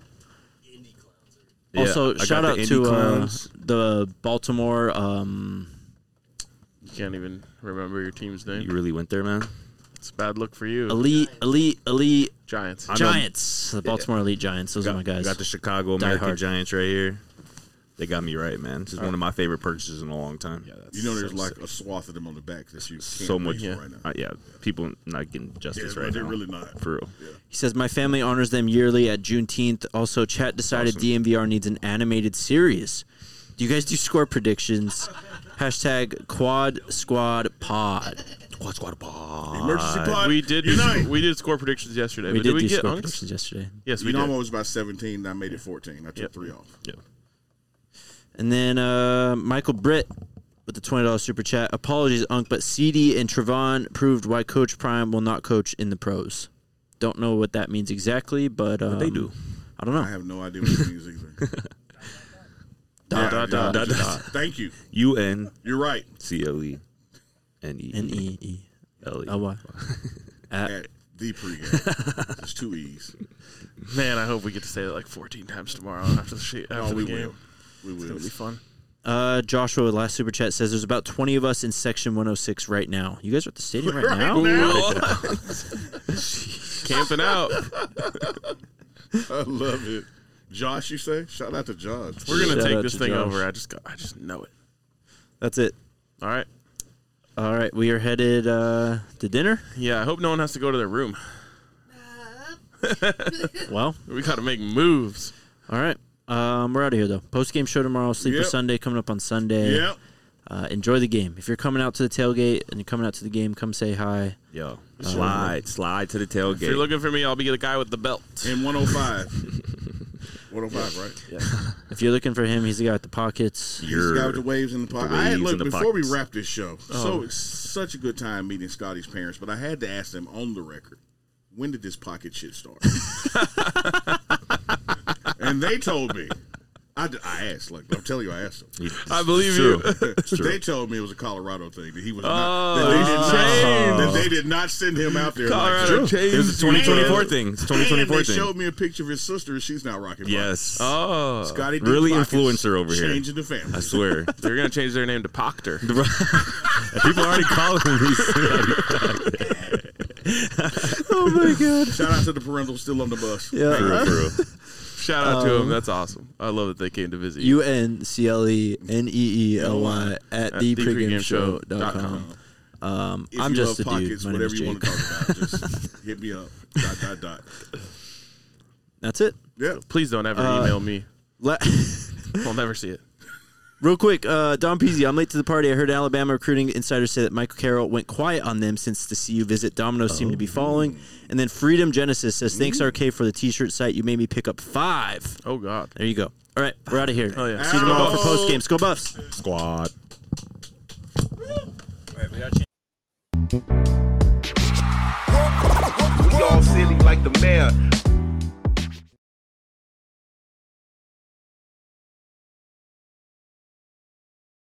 Yeah, Also, I got shout the out Indy to uh, Clowns. the Baltimore. Um, You can't even remember your team's name. You really went there, man. It's a bad look for you. elite, elite, elite Giants. I know- Giants. The Baltimore Elite Giants. Those got, are my guys. Got the Chicago Die American hard. Giants right here. They got me right, man. This is one of my favorite purchases in a long time. Yeah, that's You know, there's so like sick. a swath of them on the back that you can't So much reach yeah. for right now. Uh, yeah, people not getting Yeah, justice but right they're now. really not. For real. He says, my family honors them yearly at Juneteenth. Also, chat decided Awesome. D M V R needs an animated series. Do you guys do score predictions? Hashtag Quad Squad Pod. Quad Squad Pod. Emergency pod. We did Unite. we did score predictions yesterday. We but did did we do get score unks? predictions yesterday. Yes, we You know, did. I was about seventeen, and I made it fourteen. I took Yep. three off. Yeah. And then uh, Michael Britt with the twenty dollars super chat. Apologies, Unc, but C D and Trevon proved why Coach Prime will not coach in the pros. Don't know what that means exactly, but um, they do. I don't know. I have no idea what it means either. Dot, dot, dot, dot, dot, dot. dot. Thank you. U N You're right. C L E N E N E E L E. L Y. At At The pregame. There's two E's. Man, I hope we get to say it like fourteen times tomorrow after the, she- after Oh, the we game. will. We will. It'll be fun. Uh, Joshua, last super chat says there's about twenty of us in section one oh six right now. You guys are at the stadium right, Right now? now? Camping out. I love it. Josh, you say? Shout out to Josh. We're gonna Shout take out this to thing Josh. over. I just got, I just know it. That's it. All right. All right, we are headed uh, to dinner. Yeah, I hope no one has to go to their room. Well, We got to make moves. all right. Um, we're out of here, though. Post-game show tomorrow. Sleeper Yep. Sunday coming up on Sunday. Yep. Uh, enjoy the game. If you're coming out to the tailgate and you're coming out to the game, come say hi. Yo, slide, slide to the tailgate. If you're looking for me, I'll be the guy with the belt. In one oh five. one oh five, right? If you're looking for him, he's the guy with the pockets. He's the guy with the waves in the pocket. I had, waves look, in the before we pockets. wrap this show, so it's such a good time meeting Scotty's parents, but I had to ask them on the record, when did this pocket shit start? And they told me. I, d- I asked, like, I'm telling you, I asked them. I believe True. you. They told me it was a Colorado thing that he was Oh, not. That they, did it's not changed. that they did not send him out there. Colorado like, changed. It was a twenty twenty-four And- thing. It's a and twenty twenty-four they thing. showed me a picture of his sister. She's now rocking. Yes. Oh. Scotty D Really Pockets, influencer over here. Changing the family. I swear. They're going to change their name to Proctor. People already calling me. Oh, my God. Shout out to the parental still on the bus. For real, Yeah. for real. Shout out to them. That's awesome. I love that they came to visit you. U N C L E N E E L Y at At the the pregame pregame show show dot dot com. Um, If I'm you just a love dude. pockets, My name whatever is you want Jake. to talk about, just hit me up. Dot dot dot. That's it. Yeah. Please don't ever Uh, email me. Le- I'll never see it. Real quick, uh, Don Peasy, I'm late to the party. I heard Alabama recruiting insiders say that Michael Carroll went quiet on them since the C U visit. Domino's seem to be following. And then Freedom Genesis says, thanks, R K, for the T-shirt site. You made me pick up five. Oh, God. There you go. All right, we're out of here. Oh, yeah. See you tomorrow for Ow. post game. Go Buffs. Squad. We all silly like the mayor.